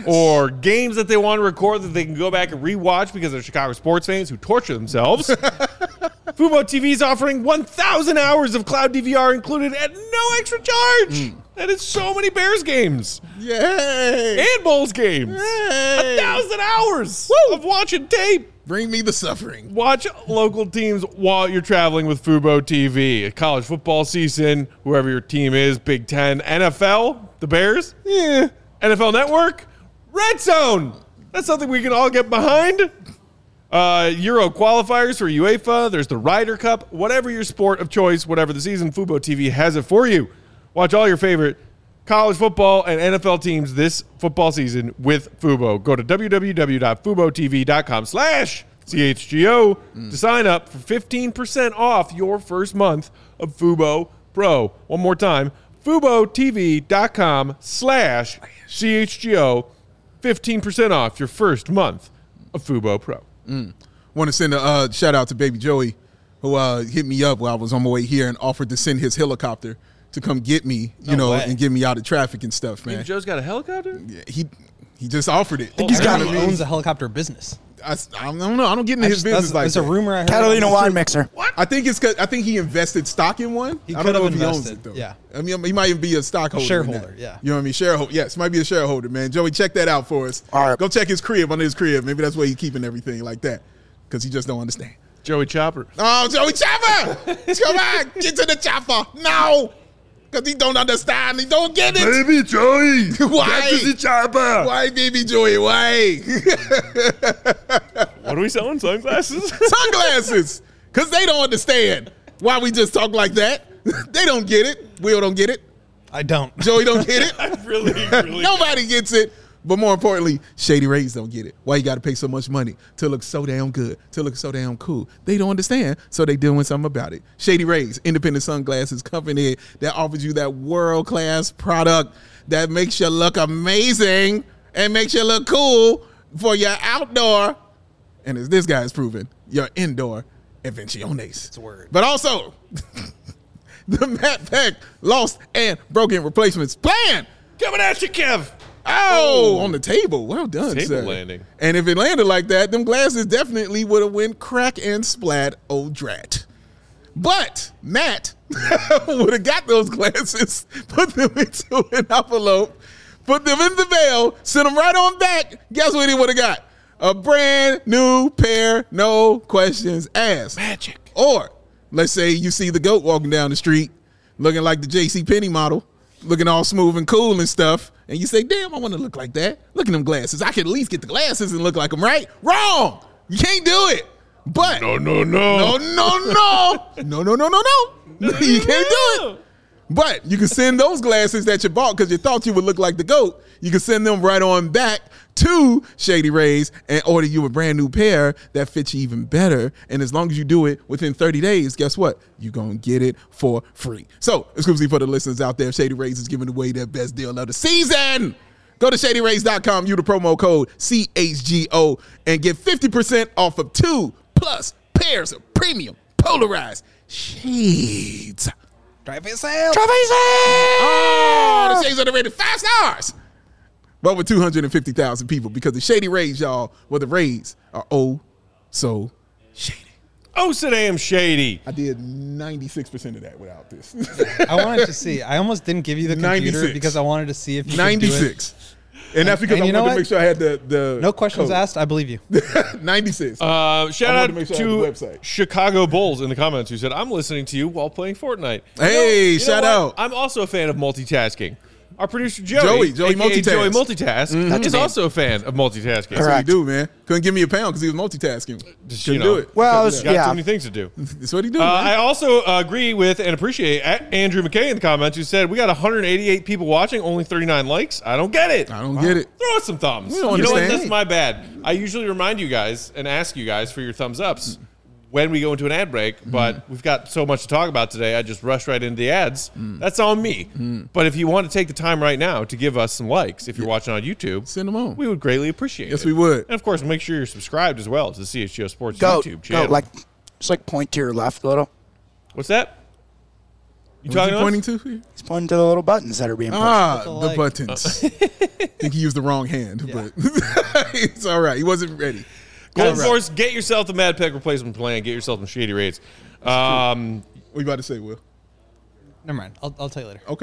A: or games that they want to record that they can go back and rewatch because they're Chicago sports fans who torture themselves, Fubo T V is offering one thousand hours of cloud D V R included at no extra charge. That is so many Bears games
C: Yay!
A: and Bulls games.
C: Yay!
A: A thousand hours of watching tape.
C: Bring me the suffering.
A: Watch local teams while you're traveling with Fubo T V. College football season, whoever your team is, Big Ten, N F L, the Bears, yeah. N F L Network, Red Zone. That's something we can all get behind. Uh, Euro qualifiers for UEFA. There's the Ryder Cup. Whatever your sport of choice, whatever the season, Fubo T V has it for you. Watch all your favorite college football and N F L teams this football season with Fubo. Go to www.fubotv.com slash CHGO mm. to sign up for fifteen percent off your first month of Fubo Pro. One more time, FuboTV.com slash CHGO. fifteen percent off your first month of Fubo Pro.
C: Mm. Want to send a uh, shout out to Baby Joey, who uh, hit me up while I was on my way here and offered to send his helicopter to come get me, you
A: No
C: know,
A: way.
C: and get me out of traffic and stuff, man.
A: Baby Joe's got a helicopter?
C: Yeah, he he just offered it.
B: I think he's got owns a helicopter business.
C: I, I don't know. I don't get into his
B: just-
C: business
B: that's-
C: like
B: There's
C: that.
B: a rumor I heard.
D: Catalina
B: about this.
D: wine mixer.
C: I think it's 'cause- I think he invested stock in one.
B: He
C: I
B: could
C: don't know
B: have
C: if he owns
B: invested,
C: it though.
B: yeah.
C: I mean, he might even be a stockholder. in
B: shareholder,
C: that.
B: yeah.
C: You know what I mean? Shareholder. Yes, might be a shareholder, man. Joey, check that out for us.
D: All right.
C: Go check his crib under his crib. Maybe that's where he's keeping everything like that because he just don't understand.
A: Joey Chopper.
C: Oh, Joey Chopper! Come on, get to the chopper. No! Because he don't understand. He don't get it.
A: Baby Joey.
C: Why?
A: Get to the chopper.
C: Why, baby Joey? Why?
A: What are we selling? Sunglasses?
C: Sunglasses. Because they don't understand why we just talk like that. They don't get it. Will don't get it.
B: I don't.
C: Joey don't get it.
A: I really, really.
C: Nobody gets it. But more importantly, Shady Rays don't get it. Why you got to pay so much money to look so damn good, to look so damn cool? They don't understand, so they doing something about it. Shady Rays, independent sunglasses company that offers you that world-class product that makes you look amazing and makes you look cool for your outdoor, and as this guy has proven, your indoor invenciones.
B: It's a word.
C: But also, the Matt Peck lost and broken replacements plan.
A: Coming at you, Kev.
C: Oh, on the table. Well done,
A: Table
C: sir.
A: landing.
C: And if it landed like that, them glasses definitely would have went crack and splat, oh drat. But Matt would have got those glasses, put them into an envelope, put them in the mail, sent them right on back. Guess what he would have got? A brand new pair, no questions asked.
A: Magic.
C: Or let's say you see the goat walking down the street looking like the J C Penney model, looking all smooth and cool and stuff, and you say, damn, I want to look like that. Look at them glasses. I can at least get the glasses and look like them, right? Wrong. You can't do it. But
A: No, no,
C: no,
A: no.
C: no, no. No, no, no, no, no. You can't do it. But you can send those glasses that you bought because you thought you would look like the GOAT. You can send them right on back to Shady Rays and order you a brand new pair that fits you even better. And as long as you do it within thirty days, guess what? You're going to get it for free. So, exclusively for the listeners out there, Shady Rays is giving away their best deal of the season. Go to shady rays dot com, use the promo code C H G O, and get fifty percent off of two plus pairs of premium polarized shades.
B: Drive for sale.
C: Oh, the shades are rated five stars. But over two hundred fifty thousand people because the Shady Rays, y'all, well, the Rays are oh so shady.
A: Oh, so damn shady.
C: I did ninety-six percent of that without this.
B: I wanted to see. I almost didn't give you the computer
C: ninety-six.
B: because I wanted to see if you
C: ninety-six. And that's because
B: And
C: I
B: you
C: wanted
B: know
C: to
B: what?
C: make sure I had the, the
B: No questions
C: code.
B: asked. I believe you.
C: ninety-six.
A: Uh, shout
C: I wanted
A: out
C: to make sure I
A: to
C: had the website.
A: Chicago Bulls in the comments who said, I'm listening to you while playing Fortnite. You
C: Hey,
A: know- you know
C: shout
A: what?
C: out.
A: I'm also a fan of multitasking. Our producer Joey,
C: Joey, Joey
A: aka
C: multitask.
A: Joey Multitask,
D: That's
A: is
D: me.
A: also a fan of multitasking.
C: That's what he
D: Correct.
C: do, man. Couldn't give me a pound because he was multitasking.
A: Just,
C: Couldn't
A: you know,
C: do it.
D: Well, I
C: Couldn't
D: was-
C: do
A: Got
D: Yeah.
A: too many things to do.
C: that. That's what he do,
A: Uh,
C: man.
A: I also agree with and appreciate A- Andrew McKay in the comments who said, we got one hundred eighty-eight people watching, only thirty-nine likes. I don't get it.
C: I don't get it.
A: Throw us some thumbs.
C: We don't
A: you know what?
C: understand.
A: That's my bad. I usually remind you guys and ask you guys for your thumbs ups when we go into an ad break, but we've got so much to talk about today. I just rushed right into the ads. That's on me. But if you want to take the time right now to give us some likes, if you're watching on YouTube,
C: Send them on.
A: we would greatly appreciate
C: Yes,
A: it.
C: we would.
A: And of course, make sure you're subscribed as well to the C H G O Sports
D: Go,
A: YouTube
D: go,
A: channel.
D: like, just like point to your left a little.
A: What's that? You
C: What's
A: talking
C: he
A: to
C: pointing
A: us?
C: to?
D: He's pointing to the little buttons that are being pushed.
C: Ah,
B: the
C: the
B: like.
C: buttons. I think he used the wrong hand, but it's all right. He wasn't ready.
A: Golden
C: Right.
A: Force, get yourself the Mad Peck replacement plan. Get yourself some shady rates. Um,
C: What you about to say, Will?
B: Never mind. I'll, I'll tell you later.
C: Okay.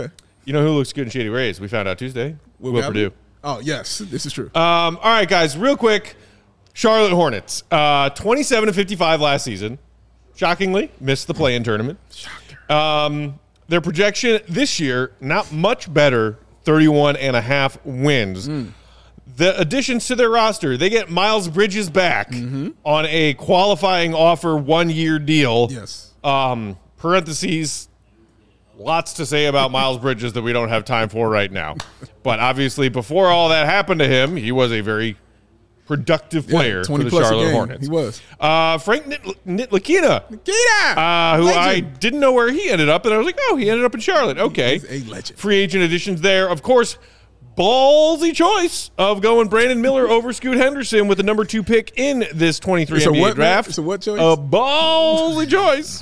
A: You know who looks good in Shady Rays? We found out Tuesday.
C: Will
A: Will
C: Gabriel?
A: Purdue.
C: Oh, yes. This is true.
A: Um, all right, guys, real quick. Charlotte Hornets, uh, twenty-seven to fifty-five last season. Shockingly, missed the play-in tournament. Um, their projection this year, not much better, thirty-one and a half wins. Mm. The additions to their roster, they get Miles Bridges back mm-hmm. on a qualifying offer one-year deal.
C: Yes.
A: Um, parentheses, lots to say about Miles Bridges that we don't have time for right now. But obviously, before all that happened to him, he was a very productive player
C: yeah,
A: for the Charlotte Hornets.
C: He was.
A: Uh, Frank Ntilikina, uh, who
C: legend.
A: I didn't know where he ended up, and I was like, oh, he ended up in Charlotte. Okay.
C: He's a legend.
A: Free agent additions there. Of course, ballsy choice of going Brandon Miller over Scoot Henderson with the number two pick in this twenty-three N B A
C: what,
A: draft.
C: It's a what choice?
A: A ballsy choice.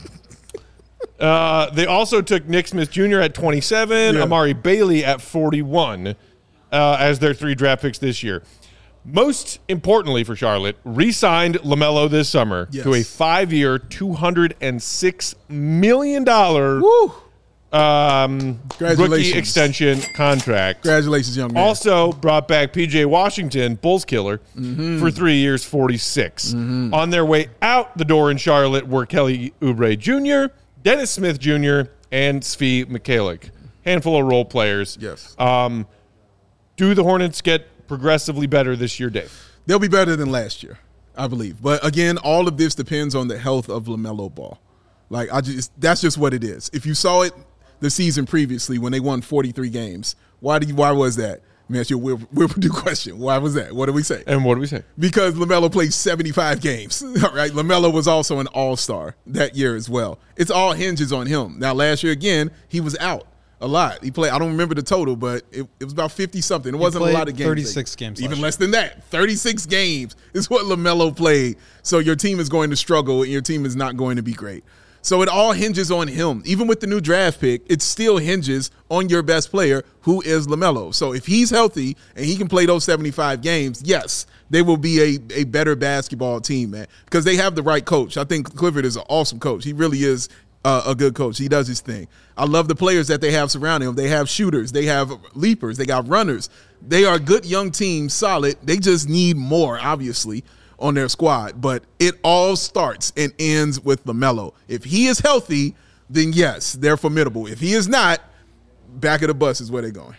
A: Uh, they also took Nick Smith Junior at twenty-seven,
C: yeah.
A: Amari Bailey at forty-one uh, as their three draft picks this year. Most importantly for Charlotte, re-signed LaMelo this summer
C: yes.
A: to a five-year, two hundred six million dollars
C: Woo.
A: Um, rookie extension contract.
C: Congratulations, young man.
A: Also brought back P J Washington, Bulls killer, mm-hmm. for three years, forty-six. Mm-hmm. On their way out the door in Charlotte were Kelly Oubre Junior, Dennis Smith Junior, and Svi Mikhailiuk. Handful of role players.
C: Yes.
A: Um, do the Hornets get progressively better this year, Dave?
C: They'll be better than last year, I believe. But again, all of this depends on the health of LaMelo Ball. Like I just, that's just what it is. If you saw it the season previously when they won forty-three games, why do you? Why was that? Man, it's your Will, Will Purdue question. Why was that? What did we say?
A: And what did we say?
C: Because LaMelo played seventy-five games. All right, LaMelo was also an all-star that year as well. It's all hinges on him. Now, last year again, he was out a lot. He played. I don't remember the total, but it, it was about fifty something. It wasn't a lot of games.
B: thirty-six games.
C: Even less than that. thirty-six games is what LaMelo played. So your team is going to struggle, and your team is not going to be great. So it all hinges on him. Even with the new draft pick, it still hinges on your best player, who is LaMelo. So if he's healthy and he can play those seventy-five games, yes, they will be a, a better basketball team, man, because they have the right coach. I think Clifford is an awesome coach. He really is uh, a good coach. He does his thing. I love the players that they have surrounding him. They have shooters. They have leapers. They got runners. They are a good young team, solid. They just need more, obviously, on their squad, but it all starts and ends with LaMelo. If he is healthy, then yes, they're formidable. If he is not, back of the bus is where they're going.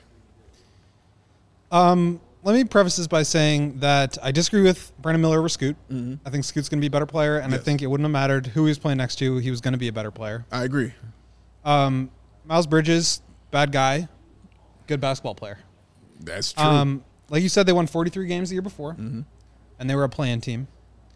B: Um, let me preface this by saying that I disagree with Brandon Miller over Scoot. Mm-hmm. I think Scoot's going to be a better player, and yes. I think it wouldn't have mattered who he was playing next to. He was going to be a better player.
C: I agree.
B: Um, Miles Bridges, bad guy, good basketball player.
C: That's true.
B: Um, like you said, they won forty-three games the year before.
C: Mm-hmm.
B: And they were a play-in team.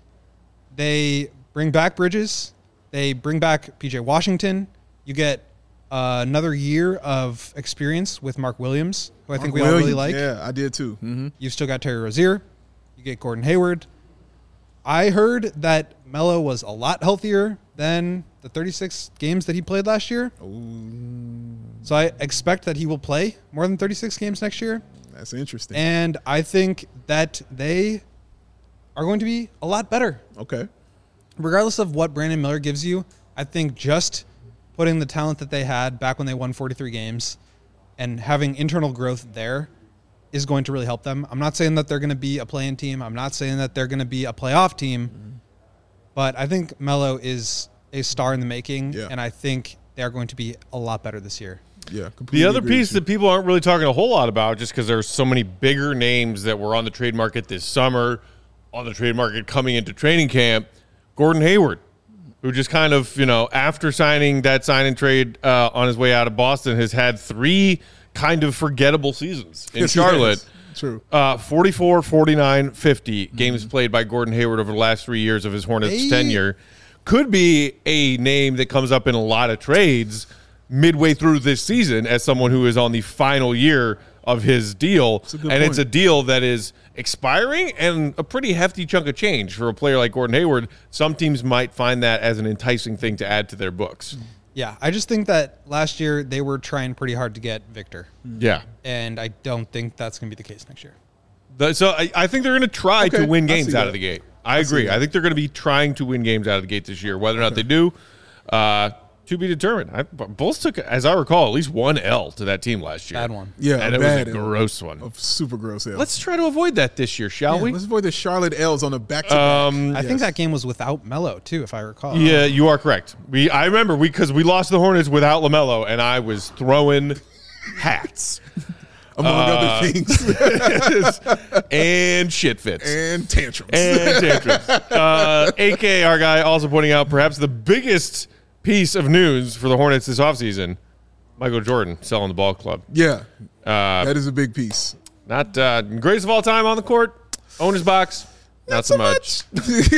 B: They bring back Bridges. They bring back P J Washington. You get uh, another year of experience with Mark Williams, who I
C: Mark
B: think we
C: Williams.
B: all really like.
C: Yeah, I did too. Mm-hmm.
B: You've still got Terry Rozier. You get Gordon Hayward. I heard that Melo was a lot healthier than the thirty-six games that he played last year.
C: Ooh.
B: So I expect that he will play more than thirty-six games next year.
C: That's interesting.
B: And I think that they are going to be a lot better.
C: Okay.
B: Regardless of what Brandon Miller gives you, I think just putting the talent that they had back when they won forty-three games and having internal growth there is going to really help them. I'm not saying that they're going to be a play-in team. I'm not saying that they're going to be a playoff team. Mm-hmm. But I think Melo is a star in the making,
C: yeah.
B: and I think they're going to be a lot better this year.
C: Yeah,
A: the other piece that people aren't really talking a whole lot about, just because there's so many bigger names that were on the trade market this summer, on the trade market coming into training camp, Gordon Hayward, who just kind of, you know, after signing that sign and trade uh, on his way out of Boston, has had three kind of forgettable seasons in
C: yes,
A: Charlotte.
C: True.
A: Uh, forty-four, forty-nine, fifty mm-hmm. games played by Gordon Hayward over the last three years of his Hornets hey. tenure. Could be a name that comes up in a lot of trades midway through this season as someone who is on the final year of his deal. And point. It's a deal that is expiring and a pretty hefty chunk of change for a player like Gordon Hayward. Some teams might find that as an enticing thing to add to their books.
B: Yeah, I just think that last year they were trying pretty hard to get Victor.
A: Yeah.
B: And I don't think that's going to be the case next year.
A: The, so I, I think they're going to try
C: okay,
A: to win games out
C: that.
A: of the gate. I, I agree. I think they're going to be trying to win games out of the gate this year. Whether or not okay. they do, uh, to be determined. I, Bulls took, as I recall, at least one L to that team last year.
B: Bad one.
C: Yeah,
A: and it
C: bad
A: was a
C: L.
A: gross one.
C: A super gross L.
A: Let's try to avoid that this year, shall
C: yeah,
A: we?
C: Let's avoid the Charlotte L's on the back to
A: Um,
B: I think that game was without Melo too, if I recall.
A: Yeah, you are correct. We I remember we because we lost the Hornets without LaMelo, and I was throwing hats
C: among
A: uh,
C: other things.
A: and shit fits.
C: And tantrums.
A: And tantrums. Uh, A K, our guy, also pointing out perhaps the biggest piece of news for the Hornets this offseason, Michael Jordan selling the ball club.
C: yeah,
A: Uh,
C: that is a big piece.
A: not uh, greatest of all time on the court. Owner's box, not, not so much. much.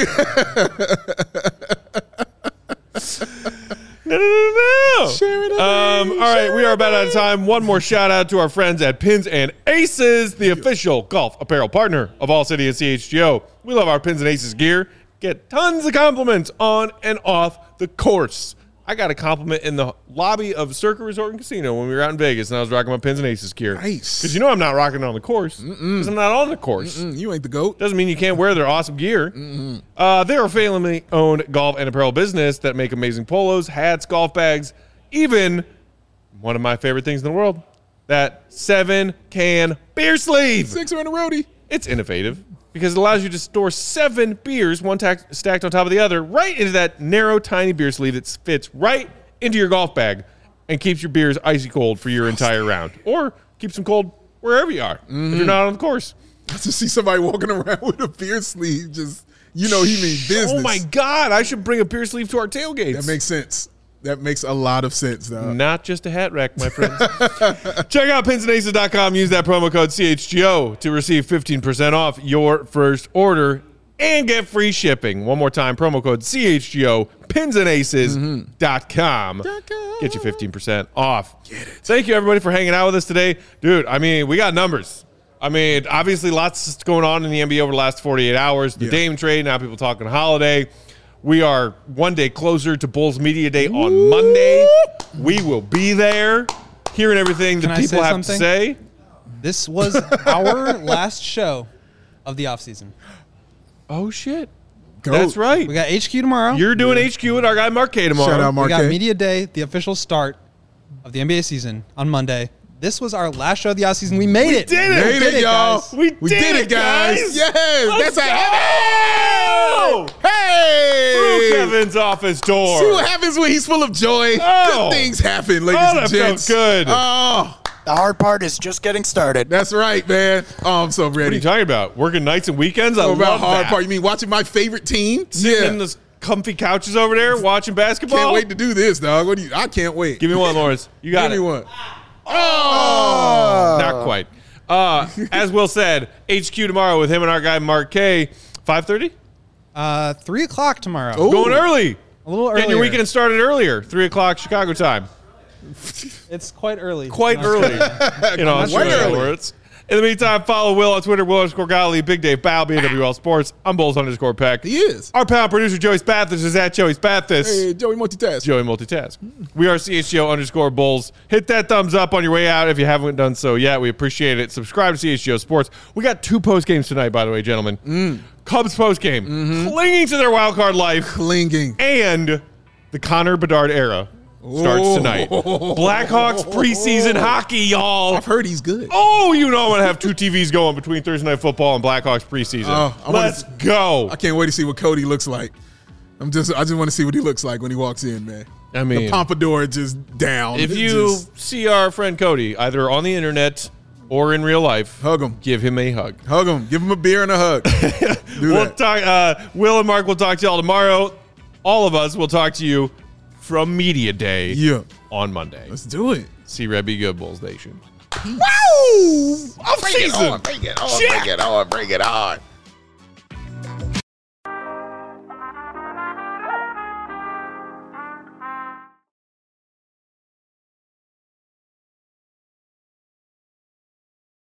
A: No, no, no, no.
C: Share it,
A: um, all right, we are about out of time. One more shout out to our friends at Pins and Aces, the official golf apparel partner of All City and C H G O. We love our Pins and Aces gear. Get tons of compliments on and off the course. I got a compliment in the lobby of Circa Resort and Casino when we were out in Vegas, and I was rocking my Pins and Aces gear.
C: Nice.
A: Because you know I'm not rocking it on the course. Because I'm not on the course.
C: Mm, you ain't the GOAT.
A: Doesn't mean you can't wear their awesome gear. Uh, they're a family-owned golf and apparel business that make amazing polos, hats, golf bags, even one of my favorite things in the world, that seven-can beer sleeve.
C: Sixer and a roadie.
A: It's innovative because it allows you to store seven beers, one tack- stacked on top of the other, right into that narrow, tiny beer sleeve that fits right into your golf bag and keeps your beers icy cold for your entire round, or keeps them cold wherever you are if you're not on the course.
C: To see somebody walking around with a beer sleeve, just, you know, he means business.
A: Oh my God, I should bring a beer sleeve to our tailgates.
C: That makes sense. That makes a lot of sense, though.
A: Not just a hat rack, my friends. Check out pins and aces dot com. Use that promo code C H G O to receive fifteen percent off your first order and get free shipping. One more time, promo code C H G O, pins and aces dot com. Get you fifteen percent off. Get it. Thank you, everybody, for hanging out with us today. Dude, I mean, we got numbers. I mean, obviously, lots going on in the N B A over the last forty-eight hours. The
C: Yeah.
A: Dame trade, now people talking holiday. We are one day closer to Bulls Media Day on Monday. We will be there, hearing everything
B: Can
A: that
B: I
A: people
B: say
A: have
B: something?
A: to say.
B: This was our last show of the offseason.
A: Oh, shit.
C: Goat.
A: That's right.
B: We got H Q tomorrow.
A: You're doing H Q with our guy Mark K tomorrow.
C: Shout out
B: we
C: Mark
B: got
C: K.
B: Media Day, the official start of the N B A season on Monday. This was our last show of the offseason. We made it.
A: did it.
C: Made
B: We
C: it, y'all.
B: guys.
A: We,
C: We
A: did,
C: did it, guys.
A: guys.
C: Yes.
A: Let's
C: That's a
A: go.
C: Hey.
A: Through Kevin's office door.
C: See what happens when he's full of joy.
A: Oh.
C: Good things happen, ladies
A: Oh,
C: and
A: that
C: gents.
A: felt good.
C: Oh,
D: The hard part is just getting started.
C: that's right, man. Oh, I'm so
A: What are
C: ready.
A: you talking about? Working nights and weekends? I
C: What about
A: love
C: hard
A: that.
C: part? You mean watching my favorite team?
A: Sitting
C: Yeah.
A: in those comfy couches over there watching basketball.
C: Can't wait to do this, dog. What do you? I can't wait.
A: Give me one, Lawrence. You got
C: Give
A: it.
C: me one. Oh.
A: Not quite. Uh, as Will said, H Q tomorrow with him and our guy Mark K. five thirty?
B: Uh, three o'clock tomorrow.
C: Oh.
A: Going early.
B: A little
A: Getting your
B: earlier.
A: weekend started earlier. three o'clock Chicago time.
B: It's quite early.
A: Quite
B: in
A: early.
B: Australia.
A: in Australia.
C: early.
A: Words. In the meantime, follow Will on Twitter, Will underscore Golly, Big Dave Bow, B W L Sports. I'm Bulls underscore Peck.
C: He is.
A: Our pal producer, Joey Spathis, is at Joey Spathis.
C: Hey, Joey multitask.
A: Joey Multitask. We are C H G O underscore Bulls. Hit that thumbs up on your way out if you haven't done so yet. We appreciate it. Subscribe to C H G O Sports. We got two post games tonight, by the way, gentlemen.
C: Mm.
A: Cubs post game,
C: Mm-hmm.
A: clinging to their wild card life,
C: Clinging.
A: and the Connor Bedard era starts
C: Oh.
A: tonight. Blackhawks preseason hockey, y'all.
C: I've heard he's good.
A: Oh, you know I'm gonna have two T Vs going between Thursday Night Football and Blackhawks preseason.
C: Oh, I wanna-
A: Let's go.
C: I can't wait to see what Cody looks like. I'm just, I just want to see what he looks like when he walks in, man.
A: I mean,
C: the pompadour just down.
A: If
C: It
A: you
C: just-
A: see our friend Cody, either on the internet or in real life,
C: hug him,
A: give him a hug.
C: hug him, give him a beer and a hug. Do
A: We'll
C: that.
A: talk. Uh, Will and Mark will talk to y'all tomorrow. All of us will talk to you from Media Day
C: Yeah,
A: on Monday.
C: let's do it.
A: See Red Be Good, Bulls Nation.
C: Woo!
A: Off
C: Bring it
A: season.
C: on, bring it on,
A: Check.
C: bring it on, bring it on.